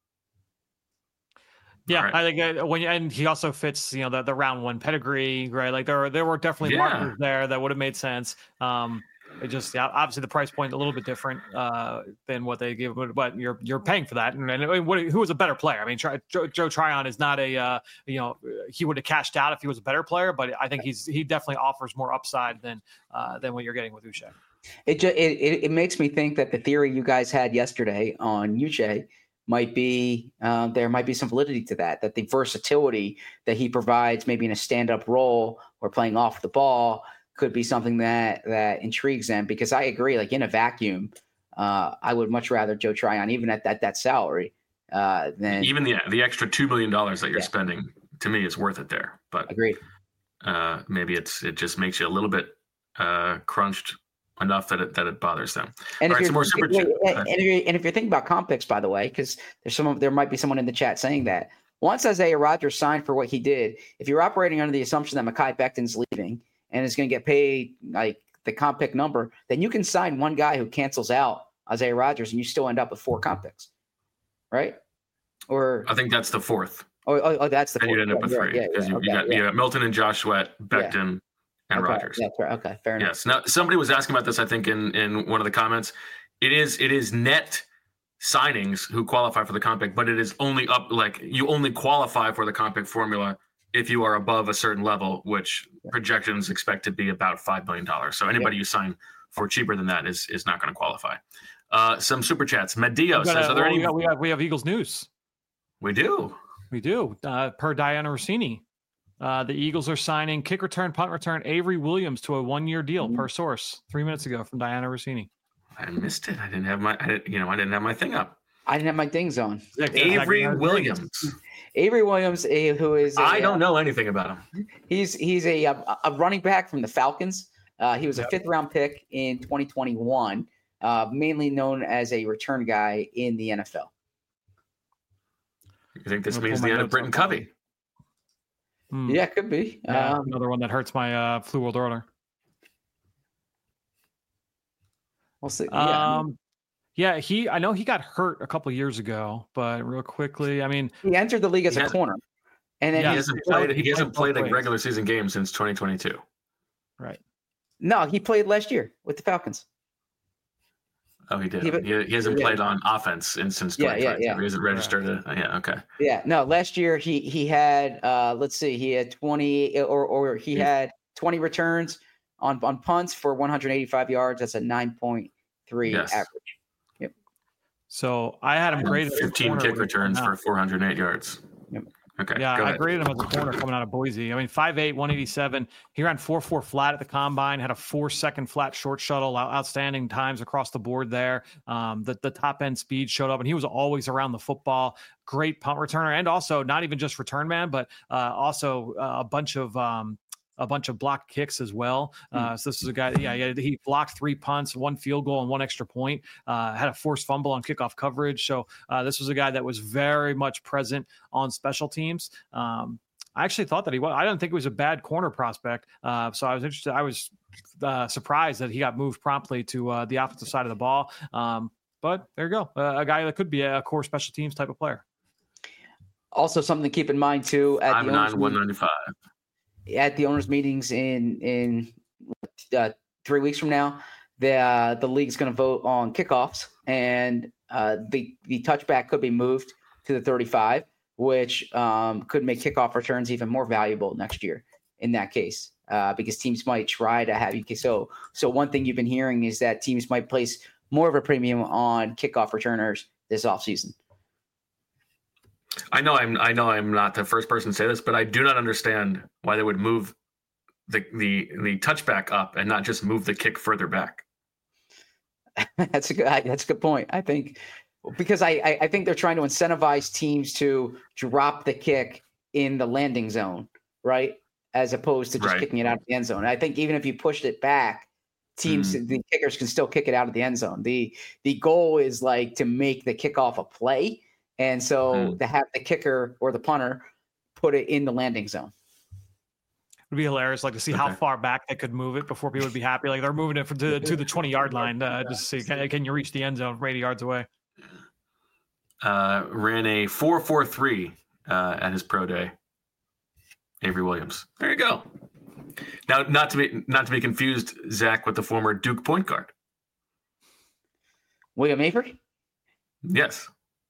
Yeah, right. I think uh, when you, and he also fits, you know, the, the round one pedigree, right? Like there there were definitely Yeah. markers there that would have made sense. Um, it just yeah, obviously the price point a little bit different uh, than what they give, but, but you're you're paying for that. And, and what, who was a better player? I mean, Joe, Joe Tryon is not a uh, you know, he would have cashed out if he was a better player, but I think he's he definitely offers more upside than uh, than what you're getting with Uche. It just it, it it makes me think that the theory you guys had yesterday on Uche might be um, there might be some validity to that. That the versatility that he provides, maybe in a stand-up role or playing off the ball, could be something that that intrigues them. Because I agree, like in a vacuum, uh, I would much rather Joe Tryon, even at that that salary, uh, than even the the extra two million dollars that you're Yeah. spending. To me, it's worth it there. But agreed. uh, maybe it's it just makes you a little bit uh, crunched enough that it that it bothers them. And All if, right, some more super you're, chat. and, if you're, and if you're thinking about comp picks, by the way, because there's some there might be someone in the chat saying that once Isaiah Rodgers signed for what he did, if you're operating under the assumption that Mekhi Becton's leaving and is going to get paid like the comp pick number, then you can sign one guy who cancels out Isaiah Rodgers and you still end up with four comp picks, right? Or I think that's the fourth. oh, oh, oh that's the And fourth. you'd end up with Yeah, three yeah, because yeah, you, okay, you got yeah. you got Milton and Josh Sweat, Becton, and Okay, Rodgers. that's right. Okay, fair enough. Yes. Now somebody was asking about this. I think in in one of the comments, it is it is net signings who qualify for the comp pick, but it is only up like you only qualify for the comp pick formula if you are above a certain level, which projections expect to be about five million dollars. So anybody you sign for cheaper than that is is not going to qualify. Uh, some super chats. Medio We says, got a- "Are there well, any?" we, got, we, have, we have Eagles news. We do. We do. Uh, per Diana Rossini, uh, the Eagles are signing kick return, punt return Avery Williams to a one-year deal per source three minutes ago from Diana Rossini. I missed it. I didn't have my. I didn't, you know, I didn't have my thing up. I didn't have my dings on. Avery Williams. Avery Williams, eh, who is a, I don't know anything about him. He's he's a a, a running back from the Falcons. Uh, he was a fifth round pick in twenty twenty-one, uh, mainly known as a return guy in the N F L. You think this I'm gonna means pull the my end of notes Britton up. Covey? Hmm. Yeah, could be. Yeah, Um, another one that hurts my uh, Flu World Order. we'll see. Yeah. Um, yeah, he. I know he got hurt a couple years ago, but real quickly, I mean, He entered the league as He a has- corner, and then Yeah, He he's, hasn't he played. played He hasn't both played a ways. regular season game since twenty twenty-two. right. No, he played last year with the Falcons. Oh, he did. He, He, he hasn't yeah. played on offense in since Yeah, yeah, twenty twenty. yeah. He hasn't registered. A, yeah, okay. Yeah, no. Last year he he had uh, let's see, he had twenty or or he Yeah. had twenty returns on on punts for one hundred eighty-five yards. That's a nine point three Yes. average. Yep. So I had him graded as a fifteen corner kick when he returns came for out. four hundred eight yards. Yep. Okay. Yeah, go I ahead. graded him as a corner coming out of Boise. I mean, five eight, one eighty-seven. He ran four four flat at the combine, had a four-second flat short shuttle, out- outstanding times across the board there. Um, the, the top-end speed showed up, and he was always around the football. Great punt returner, and also not even just return man, but uh, also uh, a bunch of um, a bunch of blocked kicks as well. Uh, so this is a guy, yeah, yeah, he blocked three punts, one field goal, and one extra point. Uh, had a forced fumble on kickoff coverage. So uh, this was a guy that was very much present on special teams. Um, I actually thought that he was. I don't think he was a bad corner prospect. Uh, so I was interested. I was uh, surprised that he got moved promptly to uh, the offensive side of the ball. Um, but there you go, uh, a guy that could be a core special teams type of player. Also, something to keep in mind too at five the nine, owners one meet- ninety-five. at the owners meetings in in uh, three weeks from now, the uh, the league's going to vote on kickoffs, and uh, the the touchback could be moved to the thirty-five, which um, could make kickoff returns even more valuable next year. In that case, uh, because teams might try to have you. So so one thing you've been hearing is that teams might place more of a premium on kickoff returners this offseason. I know I'm I know I'm not the first person to say this, but I do not understand why they would move the the the touchback up and not just move the kick further back. That's a good. That's a good point. I think because I, I I think they're trying to incentivize teams to drop the kick in the landing zone, right, as opposed to just Right. kicking it out of the end zone. And I think even if you pushed it back, teams Mm. the kickers can still kick it out of the end zone. the The goal is like to make the kickoff a play, and so Mm. to have the kicker or the punter put it in the landing zone. It'd be hilarious, like to see how Okay. far back they could move it before people would be happy. Like they're moving it from to, to the twenty yard line, uh, just to see can, can you reach the end zone from eighty yards away. Uh, ran a four four three uh, at his pro day. Avery Williams. There you go. Now, not to be not to be confused, Zach, with the former Duke point guard. William Avery? Yes.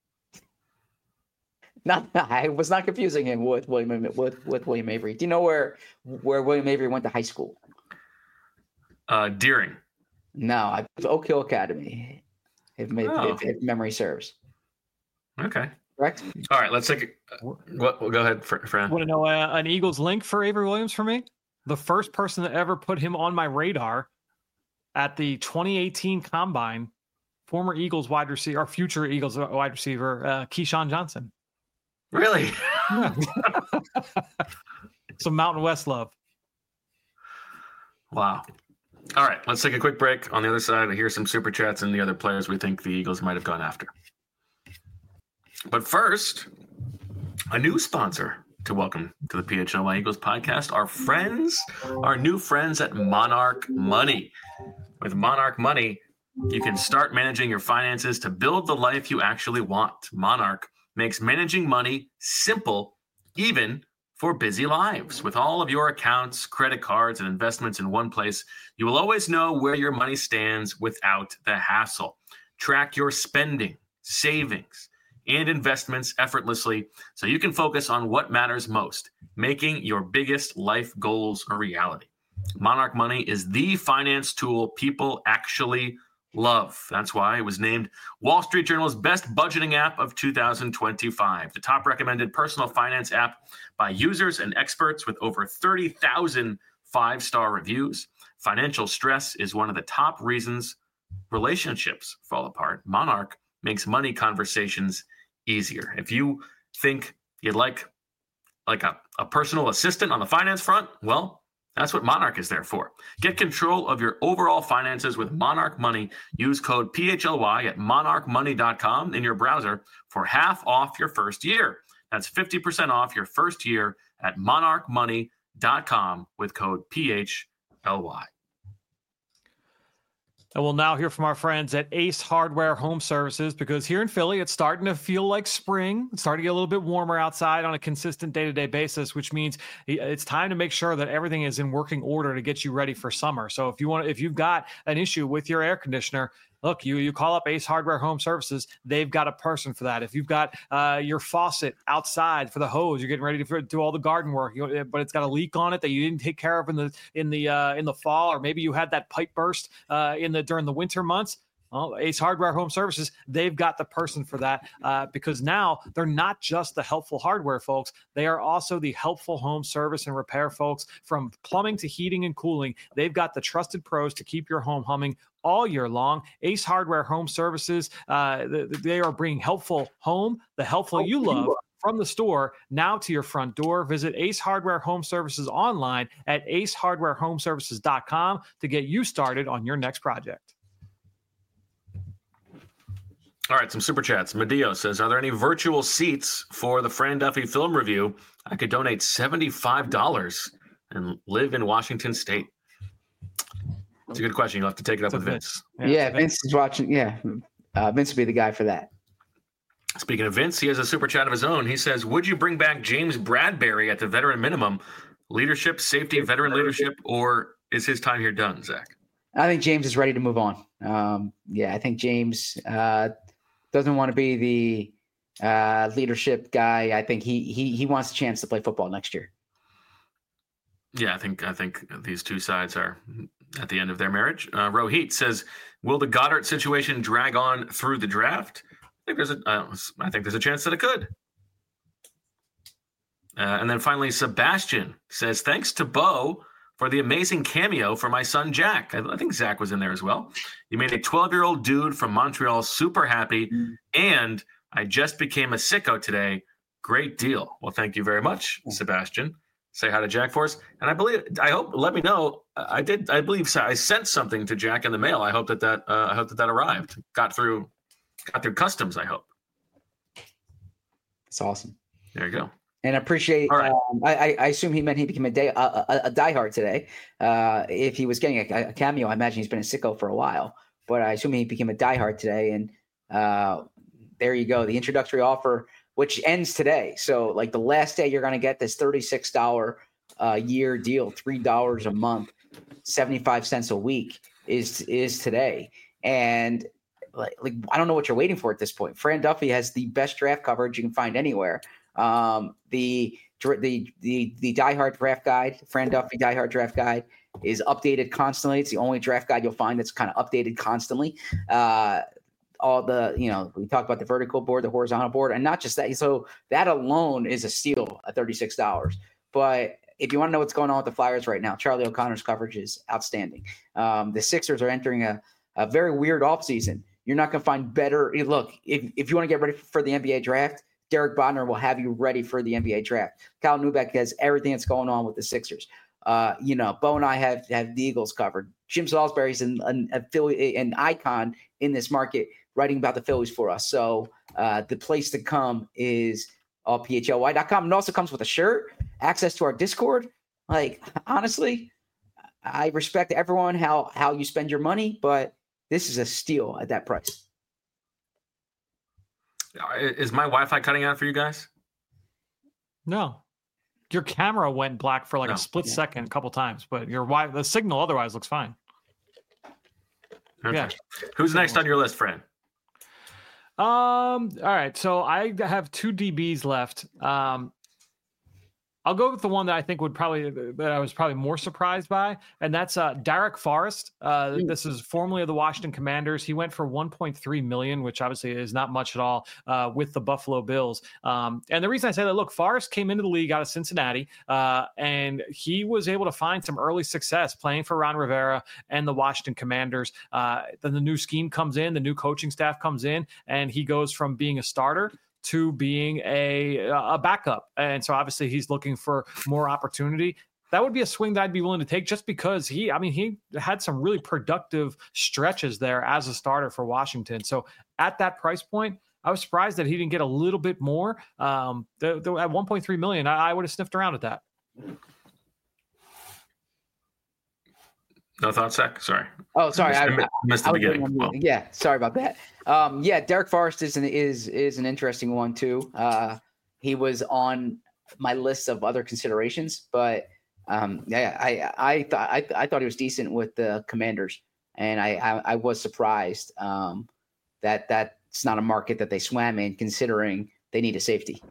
Not, I was not confusing him with William with, with William Avery. Do you know where where William Avery went to high school? Uh, Deering. No, I Oak Hill Academy, if, if, Oh. if, if memory serves. Okay. Correct? All right. Let's take. A, what? Well, go ahead, Fr- Fran. Want to know uh, an Eagles link for Avery Williams for me? The first person that ever put him on my radar at the twenty eighteen Combine, former Eagles wide receiver, or future Eagles wide receiver, uh, Keyshawn Johnson. Really? Some Mountain West love. Wow. All right. Let's take a quick break. On the other side, here's some super chats and the other players we think the Eagles might have gone after. But first, a new sponsor to welcome to the P H L Y Eagles podcast, our friends, our new friends at Monarch Money. With Monarch Money, you can start managing your finances to build the life you actually want. Monarch makes managing money simple, even for busy lives. With all of your accounts, credit cards, and investments in one place, you will always know where your money stands without the hassle. Track your spending, savings, and investments effortlessly so you can focus on what matters most, making your biggest life goals a reality. Monarch Money is the finance tool people actually love. That's why it was named Wall Street Journal's best budgeting app of two thousand twenty-five, the top recommended personal finance app by users and experts with over thirty thousand five-star reviews. Financial stress is one of the top reasons relationships fall apart. Monarch makes money conversations easier. If you think you'd like like a, a personal assistant on the finance front, well, that's what Monarch is there for. Get control of your overall finances with Monarch Money. Use code P H L Y at monarch money dot com in your browser for half off your first year. That's fifty percent off your first year at monarch money dot com with code P H L Y. And we'll now hear from our friends at Ace Hardware Home Services, because here in Philly, it's starting to feel like spring. It's starting to get a little bit warmer outside on a consistent day-to-day basis, which means it's time to make sure that everything is in working order to get you ready for summer. So if you want, if you've got an issue with your air conditioner, look, you you call up Ace Hardware Home Services. They've got a person for that. If you've got uh, your faucet outside for the hose, you're getting ready to do all the garden work, you, but it's got a leak on it that you didn't take care of in the in the uh, in the fall, or maybe you had that pipe burst uh, in the during the winter months. Well, Ace Hardware Home Services, they've got the person for that, uh, because now they're not just the helpful hardware folks. They are also the helpful home service and repair folks. From plumbing to heating and cooling, they've got the trusted pros to keep your home humming all year long. Ace Hardware Home Services, uh, they are bringing helpful home, the helpful you love, from the store now to your front door. Visit Ace Hardware Home Services online at ace hardware home services dot com to get you started on your next project. All right, some super chats. Medeo says, are there any virtual seats for the Fran Duffy film review? I could donate seventy-five dollars and live in Washington State. It's a good question. You'll have to take it up with Vince. Yeah, yeah Vince is watching. Yeah, uh, Vince would be the guy for that. Speaking of Vince, he has a super chat of his own. He says, would you bring back James Bradberry at the veteran minimum? Leadership, safety, veteran leadership, or is his time here done, Zach? I think James is ready to move on. Um, yeah, I think James uh, doesn't want to be the uh, leadership guy. I think he he he wants a chance to play football next year. Yeah, I think I think these two sides are at the end of their marriage. Uh, Rohit says, will the Goddard situation drag on through the draft? I think there's a, uh, I think there's a chance that it could. Uh, and then finally, Sebastian says, thanks to Bo for the amazing cameo for my son, Jack. I, I think Zach was in there as well. You made a twelve-year-old dude from Montreal super happy, mm-hmm. and I just became a sicko today. Great deal. Well, thank you very much, Sebastian. Say hi to Jack for us. And I believe, I hope, let me know. I did, I believe I sent something to Jack in the mail. I hope that that, uh, I hope that that arrived. Got through, got through customs, I hope. It's awesome. There you go. And appreciate, right. um, I, I assume he meant he became a, day, a, a, a diehard today. Uh, if he was getting a, a cameo, I imagine he's been a sicko for a while. But I assume he became a diehard today. And uh, there you go. The introductory offer, which ends today. So like the last day you're going to get this thirty-six dollars a year deal, three dollars a month, seventy-five cents a week is is today. And like, like I don't know what you're waiting for at this point. Fran Duffy has the best draft coverage you can find anywhere. Um, the the the the diehard draft guide, Fran Duffy diehard draft guide, is updated constantly. It's the only draft guide you'll find that's kind of updated constantly. Uh, all the, you know, we talk about the vertical board, the horizontal board, and not just that. So that alone is a steal at thirty-six dollars. But if you want to know what's going on with the Flyers right now, Charlie O'Connor's coverage is outstanding. Um, the Sixers are entering a, a very weird offseason. You're not going to find better. Look, if, if you want to get ready for the N B A draft, Derek Bodner will have you ready for the N B A draft. Kyle Neubeck has everything that's going on with the Sixers. Uh, you know, Bo and I have, have the Eagles covered. Jim Salisbury's an, an, a, an icon in this market, writing about the Phillies for us. So uh, the place to come is all P H L Y dot com. It also comes with a shirt, access to our Discord. Like, honestly, I respect everyone, how, how you spend your money, but this is a steal at that price. Is my Wi-Fi cutting out for you guys? No. Your camera went black for like no. a split yeah. second a couple times, but your wi- the signal otherwise looks fine. Okay. Yeah. Who's next on your list, Fran? Um. All right. So I have two D Bs left. Um. I'll go with the one that I think would probably that I was probably more surprised by, and that's uh, Derek Forrest. Uh, mm. This is formerly of the Washington Commanders. He went for one point three million dollars, which obviously is not much at all uh, with the Buffalo Bills. Um, and the reason I say that, look, Forrest came into the league out of Cincinnati, uh, and he was able to find some early success playing for Ron Rivera and the Washington Commanders. Uh, then the new scheme comes in, the new coaching staff comes in, and he goes from being a starter to being a a backup. And so obviously he's looking for more opportunity. That would be a swing that I'd be willing to take just because he, I mean, he had some really productive stretches there as a starter for Washington. So at that price point, I was surprised that he didn't get a little bit more. Um, the, the, at one point three million, I, I would have sniffed around at that. No thoughts, Zach? Sorry. Oh, sorry. I, I missed the I beginning. Well. Yeah, sorry about that. Um, yeah, Derek Forrest is an is is an interesting one too. Uh, he was on my list of other considerations, but um, yeah, I I thought I, I thought he was decent with the Commanders, and I I, I was surprised um, that that's not a market that they swam in, considering they need a safety.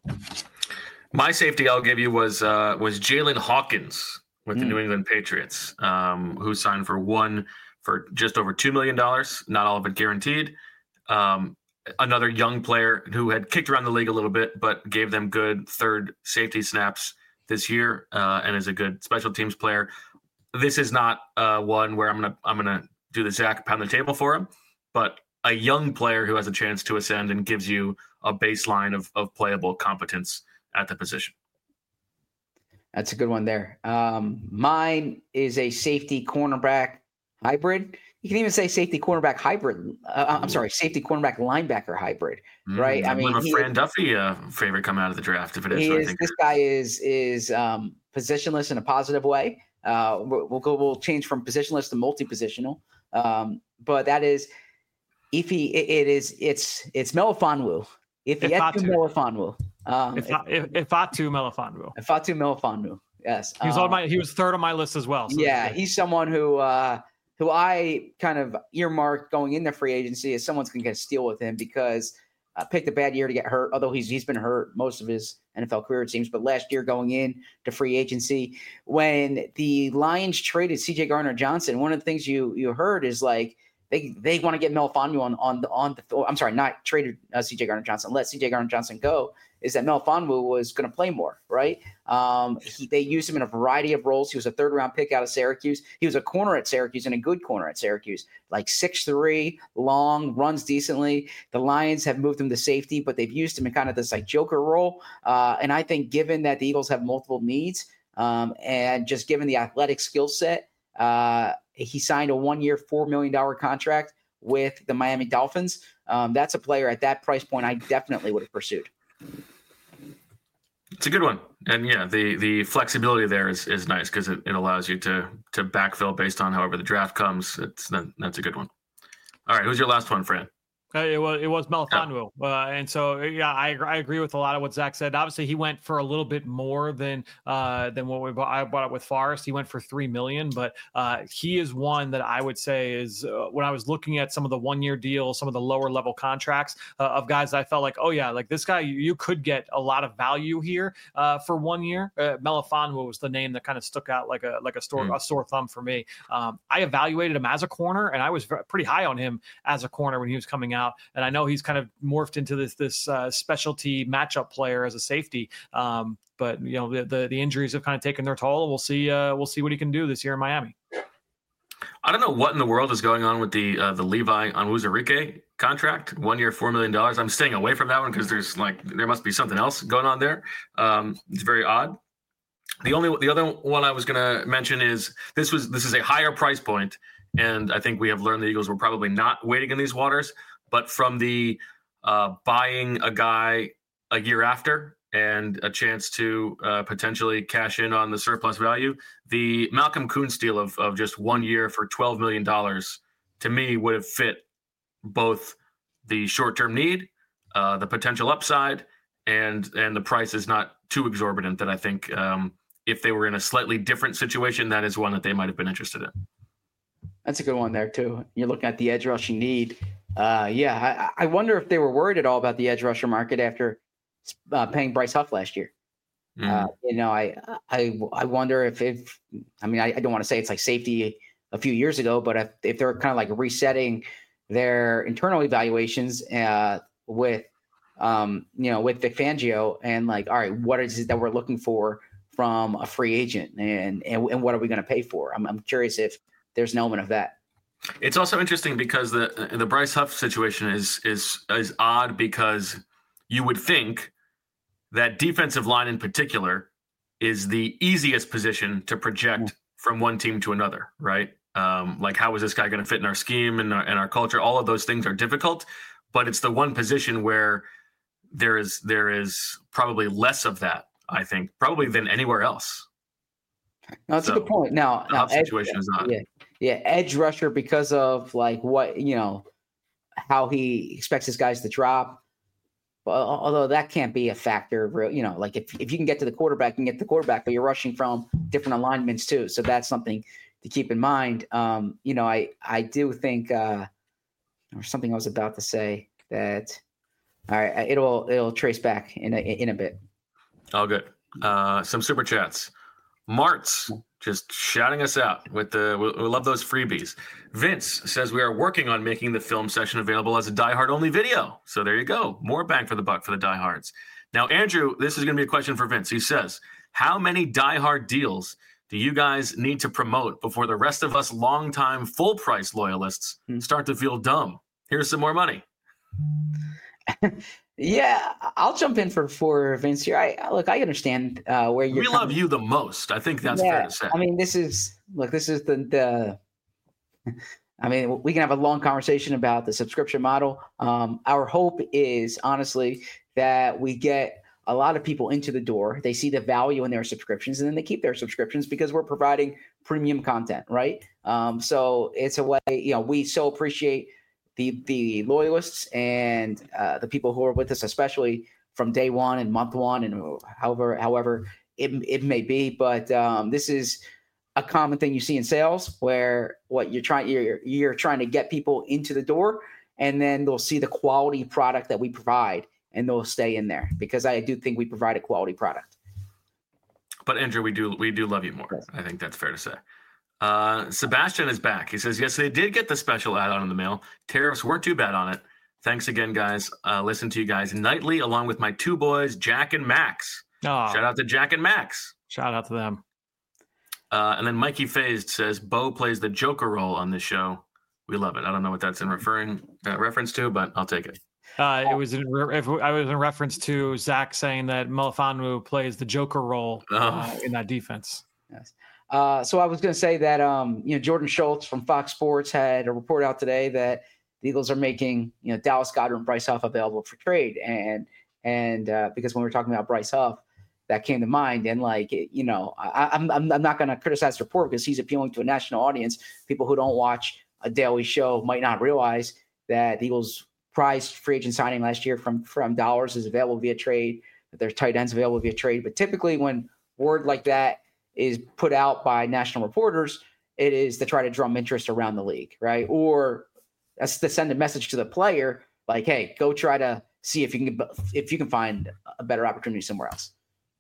My safety I'll give you was uh, was Jalen Hawkins with the Mm. New England Patriots, um, who signed for one for just over two million dollars, not all of it guaranteed. Um, another young player who had kicked around the league a little bit, but gave them good third safety snaps this year, uh, and is a good special teams player. This is not uh, one where I'm gonna I'm gonna do the Zach pound the table for him, but a young player who has a chance to ascend and gives you a baseline of of playable competence at the position. That's a good one there. Um, mine is a safety cornerback hybrid. You can even say safety cornerback hybrid. Uh, I'm sorry, safety cornerback linebacker hybrid, right? Mm, I mean, a he, Fran Duffy uh, favorite coming out of the draft if it is. he So I is think this guy is is um, positionless in a positive way. Uh, we'll, we'll go. We'll change from positionless to multi-positional. Um, but that is if he it, it is it's it's Melifonwu. If he had to Melifonwu. Um, if if, if Fatu Melifonwu. If Fatu Melifonwu. Yes. He was um, on my he was third on my list as well. So yeah, he's someone who uh, who I kind of earmarked going into free agency as someone's going to get a steal with him because I uh, picked a bad year to get hurt, although he's he's been hurt most of his N F L career, it seems. But last year going in to free agency, when the Lions traded C J Gardner-Johnson, one of the things you you heard is like they they want to get Melifonwu on on the on the I'm sorry, not traded uh, C J Gardner-Johnson, let C J Gardner-Johnson go. Is that Melifonwu was going to play more, right? Um, he, they used him in a variety of roles. He was a third-round pick out of Syracuse. He was a corner at Syracuse and a good corner at Syracuse, like six three, long, runs decently. The Lions have moved him to safety, but they've used him in kind of this like joker role. Uh, and I think given that the Eagles have multiple needs um, and just given the athletic skill set, uh, he signed a one-year, four million dollars contract with the Miami Dolphins. Um, that's a player at that price point I definitely would have pursued. It's a good one. And yeah, the the flexibility there is, is nice because it, it allows you to to backfill based on however the draft comes. It's that, that's a good one. All right, who's your last one, Fran? Uh, it was it was Melifonwu, oh. uh, and so yeah, I I agree with a lot of what Zach said. Obviously, he went for a little bit more than uh, than what we bought, I bought it with Forrest. He went for three million, but uh, he is one that I would say is uh, when I was looking at some of the one year deals, some of the lower level contracts uh, of guys, I felt like, oh yeah, like this guy, you, you could get a lot of value here uh, for one year. Uh, Melifonwu was the name that kind of stuck out like a like a sore mm. a sore thumb for me. Um, I evaluated him as a corner, and I was pretty high on him as a corner when he was coming out. Out. And I know he's kind of morphed into this this uh, specialty matchup player as a safety. Um, but you know the, the the injuries have kind of taken their toll. We'll see. Uh, we'll see what he can do this year in Miami. I don't know what in the world is going on with the uh, the Levi Onwuzurike contract. One year, four million dollars. I'm staying away from that one because there's like there must be something else going on there. Um, it's very odd. The only the other one I was going to mention is this was this is a higher price point, and I think we have learned the Eagles were probably not waiting in these waters. But from the uh, buying a guy a year after and a chance to uh, potentially cash in on the surplus value, the Malcolm Kuhn deal of, of just one year for twelve million dollars to me would have fit both the short-term need, uh, the potential upside, and and the price is not too exorbitant that I think um, if they were in a slightly different situation, that is one that they might have been interested in. That's a good one there, too. You're looking at the edge rushing need. Uh, yeah, I, I wonder if they were worried at all about the edge rusher market after uh, paying Bryce Huff last year. Mm. Uh, you know, I, I I wonder if, if I mean, I, I don't want to say it's like safety a few years ago, but if, if they're kind of like resetting their internal evaluations uh, with, um, you know, with Vic Fangio and like, all right, what is it that we're looking for from a free agent and, and, and what are we going to pay for? I'm, I'm curious if there's an element of that. It's also interesting because the the Bryce Huff situation is is is odd because you would think that defensive line in particular is the easiest position to project yeah. from one team to another, right? Um, like how is this guy going to fit in our scheme and our, and our culture? All of those things are difficult, but it's the one position where there is there is probably less of that, I think, probably than anywhere else. No, that's So, a good point. Now, the now Huff edge, situation is odd. yeah, yeah, edge rusher because of like what you know, how he expects his guys to drop. But although that can't be a factor, you know, like if, if you can get to the quarterback, you can get to the quarterback, but you're rushing from different alignments too. So that's something to keep in mind. Um, you know, I I do think uh, or something I was about to say that. All right, it'll it'll trace back in a in a bit. All good. Uh, some super chats. Mart's just shouting us out with the. We, we love those freebies. Vince says we are working on making the film session available as a Die Hard only video. So there you go. More bang for the buck for the Die Hards. Now, Andrew, this is going to be a question for Vince. He says, how many Die Hard deals do you guys need to promote before the rest of us longtime full price loyalists start to feel dumb? Here's some more money. Yeah, I'll jump in for for Vince here. I look, I understand uh, where you're. We love you the most. I think that's yeah, fair to say. I mean, this is look. This is the the. I mean, we can have a long conversation about the subscription model. Um, our hope is honestly that we get a lot of people into the door. They see the value in their subscriptions, and then they keep their subscriptions because we're providing premium content, right? Um, so it's a way. You know, we so appreciate the the loyalists and uh, the people who are with us, especially from day one and month one, and however however it it may be. But um, this is a common thing you see in sales, where what you're trying you're you're trying to get people into the door, and then they'll see the quality product that we provide, and they'll stay in there because I do think we provide a quality product. But Andrew, we do we do love you more. Yes. I think that's fair to say. Uh, Sebastian is back. He says, yes, they did get the special add-on in the mail. Tariffs weren't too bad on it. Thanks again, guys. Uh, listen to you guys nightly along with my two boys, Jack and Max. Oh. Shout out to Jack and Max. Shout out to them. Uh, and then Mikey Phased says, Bo plays the Joker role on this show. We love it. I don't know what that's in referring uh, reference to, but I'll take it. Uh, it was in re- if I was in reference to Zach saying that Melifonwu plays the Joker role oh. uh, in that defense. Yes. Uh, so I was going to say that, um, you know, Jordan Schultz from Fox Sports had a report out today that the Eagles are making, you know, Dallas Goedert and Bryce Huff available for trade. And, and uh, because when we were talking about Bryce Huff, that came to mind. And like, you know, I, I'm, I'm not going to criticize the report because he's appealing to a national audience. People who don't watch a daily show might not realize that the Eagles prized free agent signing last year from, from dollars is available via trade, that their tight ends available via trade. But typically when word like that is put out by national reporters, it is to try to drum interest around the league, right? Or that's to send a message to the player, like, hey, go try to see if you can if you can find a better opportunity somewhere else.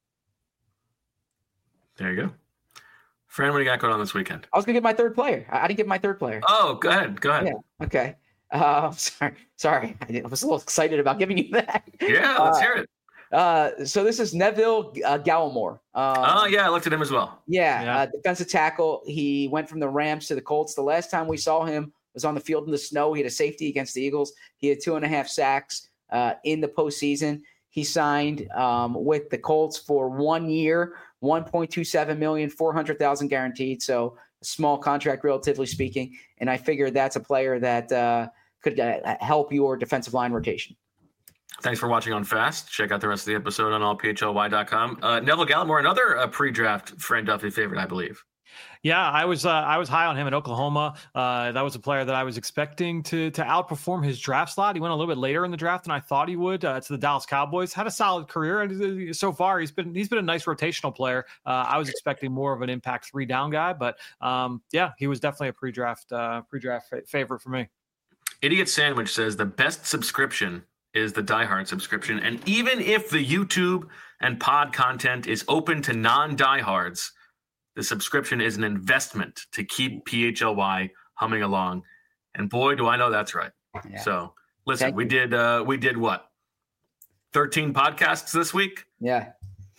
There you go. Fran, what do you got going on this weekend? I was going to get my third player. I, I didn't get my third player. Oh, go ahead. Go ahead. Yeah. Okay. Uh, sorry. Sorry. I was a little excited about giving you that. Yeah, let's uh, hear it. Uh, so this is Neville uh, Gallimore. Um, oh, yeah, I looked at him as well. Yeah, yeah. Uh, defensive tackle. He went from the Rams to the Colts. The last time we saw him was on the field in the snow. He had a safety against the Eagles. He had two and a half sacks uh, in the postseason. He signed um, with the Colts for one year, one point two seven million dollars, four hundred thousand dollars guaranteed. So a small contract, relatively speaking. And I figured that's a player that uh, could uh, help your defensive line rotation. Thanks for watching on Fast. Check out the rest of the episode on all P H L Y dot com. Uh, Neville Gallimore, another uh, pre-draft Fran Duffy favorite, I believe. Yeah, I was uh, I was high on him in Oklahoma. Uh, that was a player that I was expecting to to outperform his draft slot. He went a little bit later in the draft than I thought he would. Uh, to the Dallas Cowboys, had a solid career, and so far he's been he's been a nice rotational player. Uh, I was expecting more of an impact three down guy, but um, yeah, he was definitely a pre-draft uh, pre-draft fa- favorite for me. Idiot Sandwich says the best subscription is the Die Hard subscription, and even if the YouTube and pod content is open to non-diehards, the subscription is an investment to keep P H L Y humming along. And boy, do I know that's right. Yeah. So listen, Thank we you. did uh, we did what? thirteen podcasts this week? Yeah.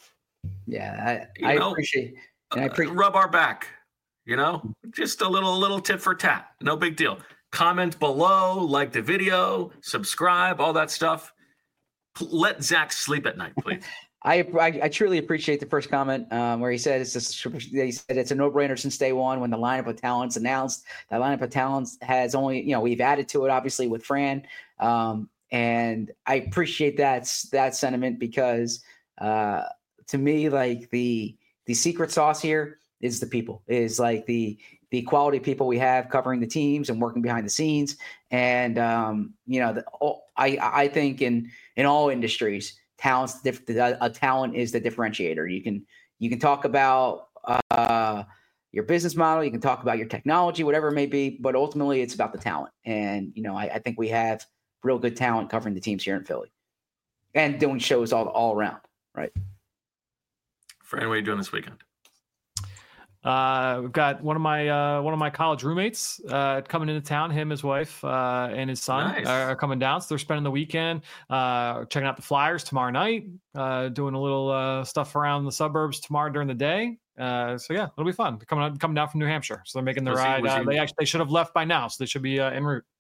Yeah. I, I know, appreciate and I appreciate uh, rub our back, you know, just a little little tit for tat. No big deal. Comment below, like the video, subscribe, all that stuff. Let Zach sleep at night, please. I, I I truly appreciate the first comment um, where he said it's a, he said it's a no-brainer since day one when the lineup of talents announced. That lineup of talents has only, you know, we've added to it obviously with Fran, um, and I appreciate that that sentiment because uh, to me, like the the secret sauce here is the people, is like the the quality of people we have covering the teams and working behind the scenes. And um, you know, the, I I think in in all industries, talent's a talent is the differentiator. You can you can talk about uh, your business model, you can talk about your technology, whatever it may be, but ultimately it's about the talent. And you know, I, I think we have real good talent covering the teams here in Philly and doing shows all all around. Right. Fran, what are you doing this weekend? Uh, we've got one of my uh, one of my college roommates uh, coming into town. Him, his wife, uh, and his son Nice. are, are coming down. So they're spending the weekend uh, checking out the Flyers tomorrow night, uh, doing a little uh, stuff around the suburbs tomorrow during the day. Uh, so yeah, it'll be fun. They're coming coming down from New Hampshire, so they're making the Was he- ride. was Uh, he- they actually they should have left by now, so they should be uh, en route.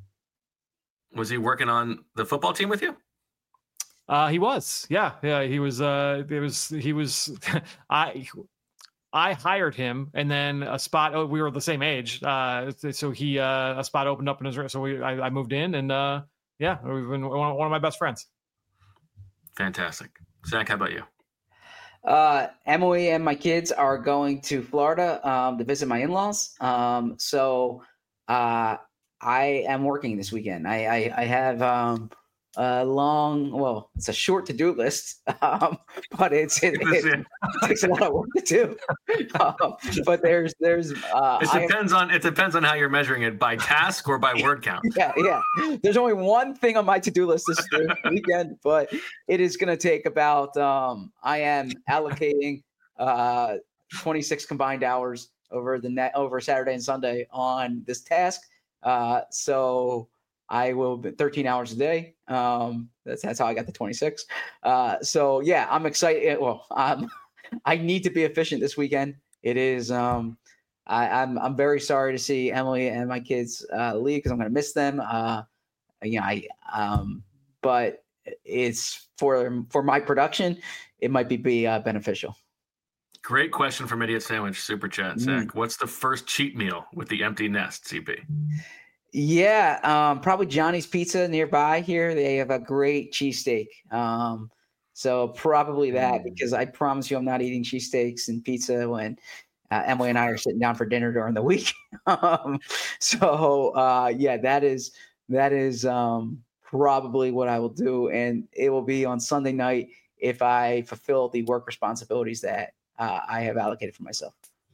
Was he working on the football team with you? Uh, he was, yeah, yeah. He was. Uh, it was. He was. I. I hired him, and then a spot. Oh, we were the same age, uh, so he uh, a spot opened up in his. So we, I, I moved in, and uh, yeah, we've been one, one of my best friends. Fantastic. Zach, how about you? Uh, Emily and my kids are going to Florida um, to visit my in-laws. Um, so uh, I am working this weekend. I, I, I have um, a long, well, it's a short to-do list, um, but it's it, it, it takes a lot of work to do. Um, but there's there's uh, It depends I, on it depends on how you're measuring it, by task or by word count. Yeah, yeah. There's only one thing on my to-do list this weekend, but it is going to take about. Um, I am allocating uh, twenty-six combined hours over the net over Saturday and Sunday on this task. Uh, so. I will be thirteen hours a day. Um, that's that's how I got the twenty-six. Uh, so yeah, I'm excited. Well, um, I need to be efficient this weekend. It is. Um, I, I'm I'm very sorry to see Emily and my kids uh, leave because I'm going to miss them. Uh, you know, I um, but it's for for my production. It might be be uh, beneficial. Great question from Idiot Sandwich Super Chat, Zach. Mm. What's the first cheat meal with the empty nest, C P? Yeah, um, probably Johnny's Pizza nearby here. They have a great cheesesteak. Um, so probably that, because I promise you I'm not eating cheesesteaks and pizza when uh, Emily and I are sitting down for dinner during the week. um, so uh, yeah, that is that is um, probably what I will do. And it will be on Sunday night if I fulfill the work responsibilities that uh, I have allocated for myself.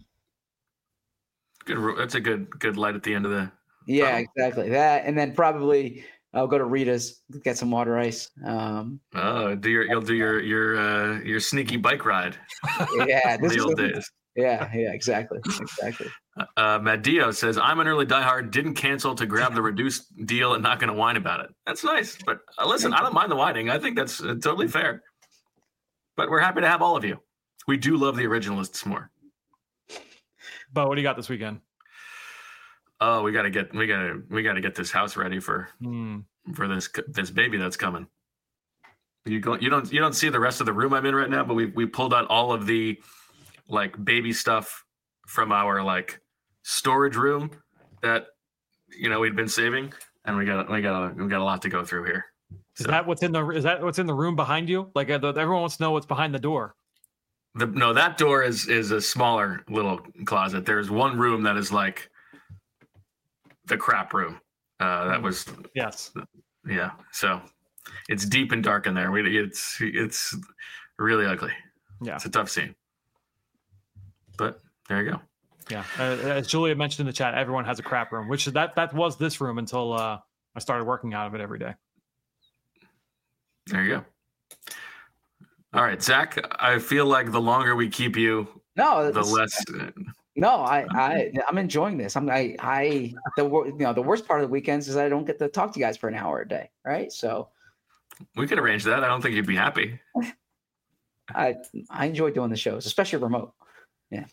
Good. That's a good good light at the end of the Yeah, exactly that, and then probably I'll go to Rita's, get some water ice. Um, oh, do your you'll do your your uh, your sneaky bike ride. Yeah, this the is old a, days. Yeah, yeah, exactly, exactly. Uh, Matt Dio says, "I'm an early diehard. Didn't cancel to grab the reduced deal and not going to whine about it." That's nice, but uh, listen, I don't mind the whining. I think that's uh, totally fair. But we're happy to have all of you. We do love the originalists more. But what do you got this weekend? Oh, we gotta get we gotta we gotta get this house ready for mm. for this this baby that's coming. You go you don't you don't see the rest of the room I'm in right now, but we we pulled out all of the like baby stuff from our like storage room that you know we'd been saving, and we got we got we got a lot to go through here. Is so, that what's in the is that what's in the room behind you? Like uh, the, everyone wants to know what's behind the door. The no, that door is is a smaller little closet. There's one room that is like the crap room. Uh, that was yes, yeah. So it's deep and dark in there. We it's it's really ugly. Yeah, it's a tough scene. But there you go. Yeah, uh, as Julia mentioned in the chat, everyone has a crap room, which that that was this room until uh, I started working out of it every day. There you go. All right, Zach. I feel like the longer we keep you, no, the less. No, I, I, I'm enjoying this. I'm, I, I, the, you know, the worst part of the weekends is I don't get to talk to you guys for an hour a day, right? So we could arrange that. I don't think you'd be happy. I, I enjoy doing the shows, especially remote. Yeah.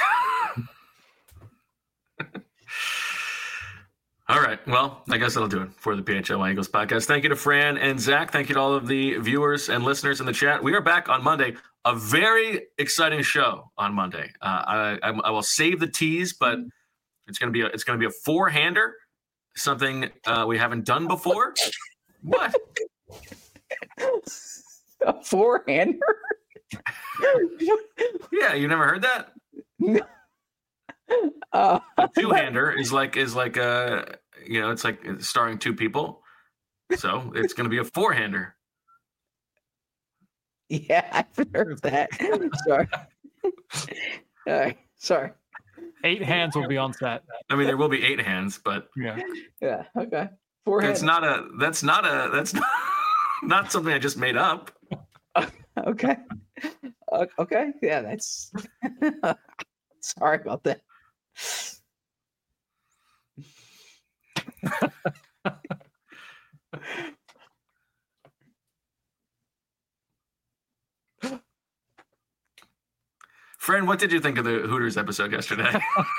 All right. Well, I guess that'll do it for the P H L Y Eagles podcast. Thank you to Fran and Zach. Thank you to all of the viewers and listeners in the chat. We are back on Monday. A very exciting show on Monday. Uh, I, I, I will save the tease, but it's gonna be a, it's gonna be a four-hander, something uh, we haven't done before. What? A four-hander? Yeah, you never heard that? uh, A two-hander is like is like a you know it's like starring two people, so it's going to be a four-hander. Yeah, I've heard that. Sorry. All right, sorry. Eight hands will be on set. I mean, there will be eight hands, but Yeah. Yeah. Okay. Four that's hands. not a that's not a that's not, not something I just made up. Okay. Uh, okay. Yeah, that's. Sorry about that. Friend, what did you think of the Hooters episode yesterday?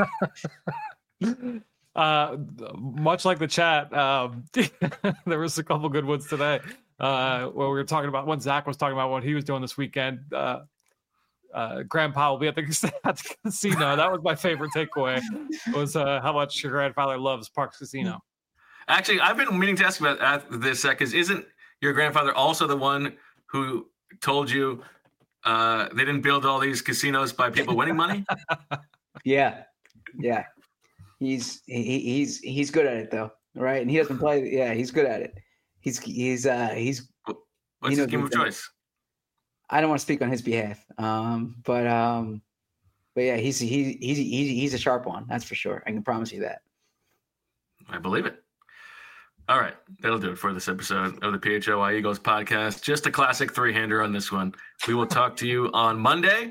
Uh, much like the chat, um, there was a couple good ones today. Uh, where we were talking about when Zach was talking about what he was doing this weekend. Uh, uh, Grandpa will be at the, at the casino. That was my favorite takeaway. Was uh, how much your grandfather loves Parks Casino. Actually, I've been meaning to ask about this because isn't your grandfather also the one who told you uh, they didn't build all these casinos by people winning money? Yeah. Yeah. He's he, he's he's good at it though, right? And he doesn't play. Yeah, he's good at it. He's he's uh he's. What's his game of choice? I don't want to speak on his behalf, um, but um, but yeah, he's he, he's he's he's a sharp one. That's for sure. I can promise you that. I believe it. All right, that'll do it for this episode of the P H L Y Eagles podcast. Just a classic three-hander on this one. We will talk to you on Monday.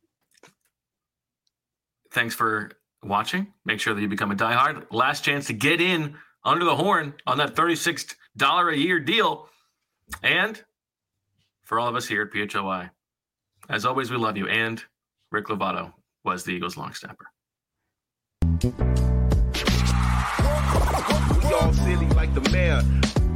Thanks for watching. Make sure that you become a diehard. Last chance to get in under the horn on that thirty-six dollars a year deal. And for all of us here at P H L Y, as always, we love you. And Rick Lovato was the Eagles long snapper. We all silly like the mayor.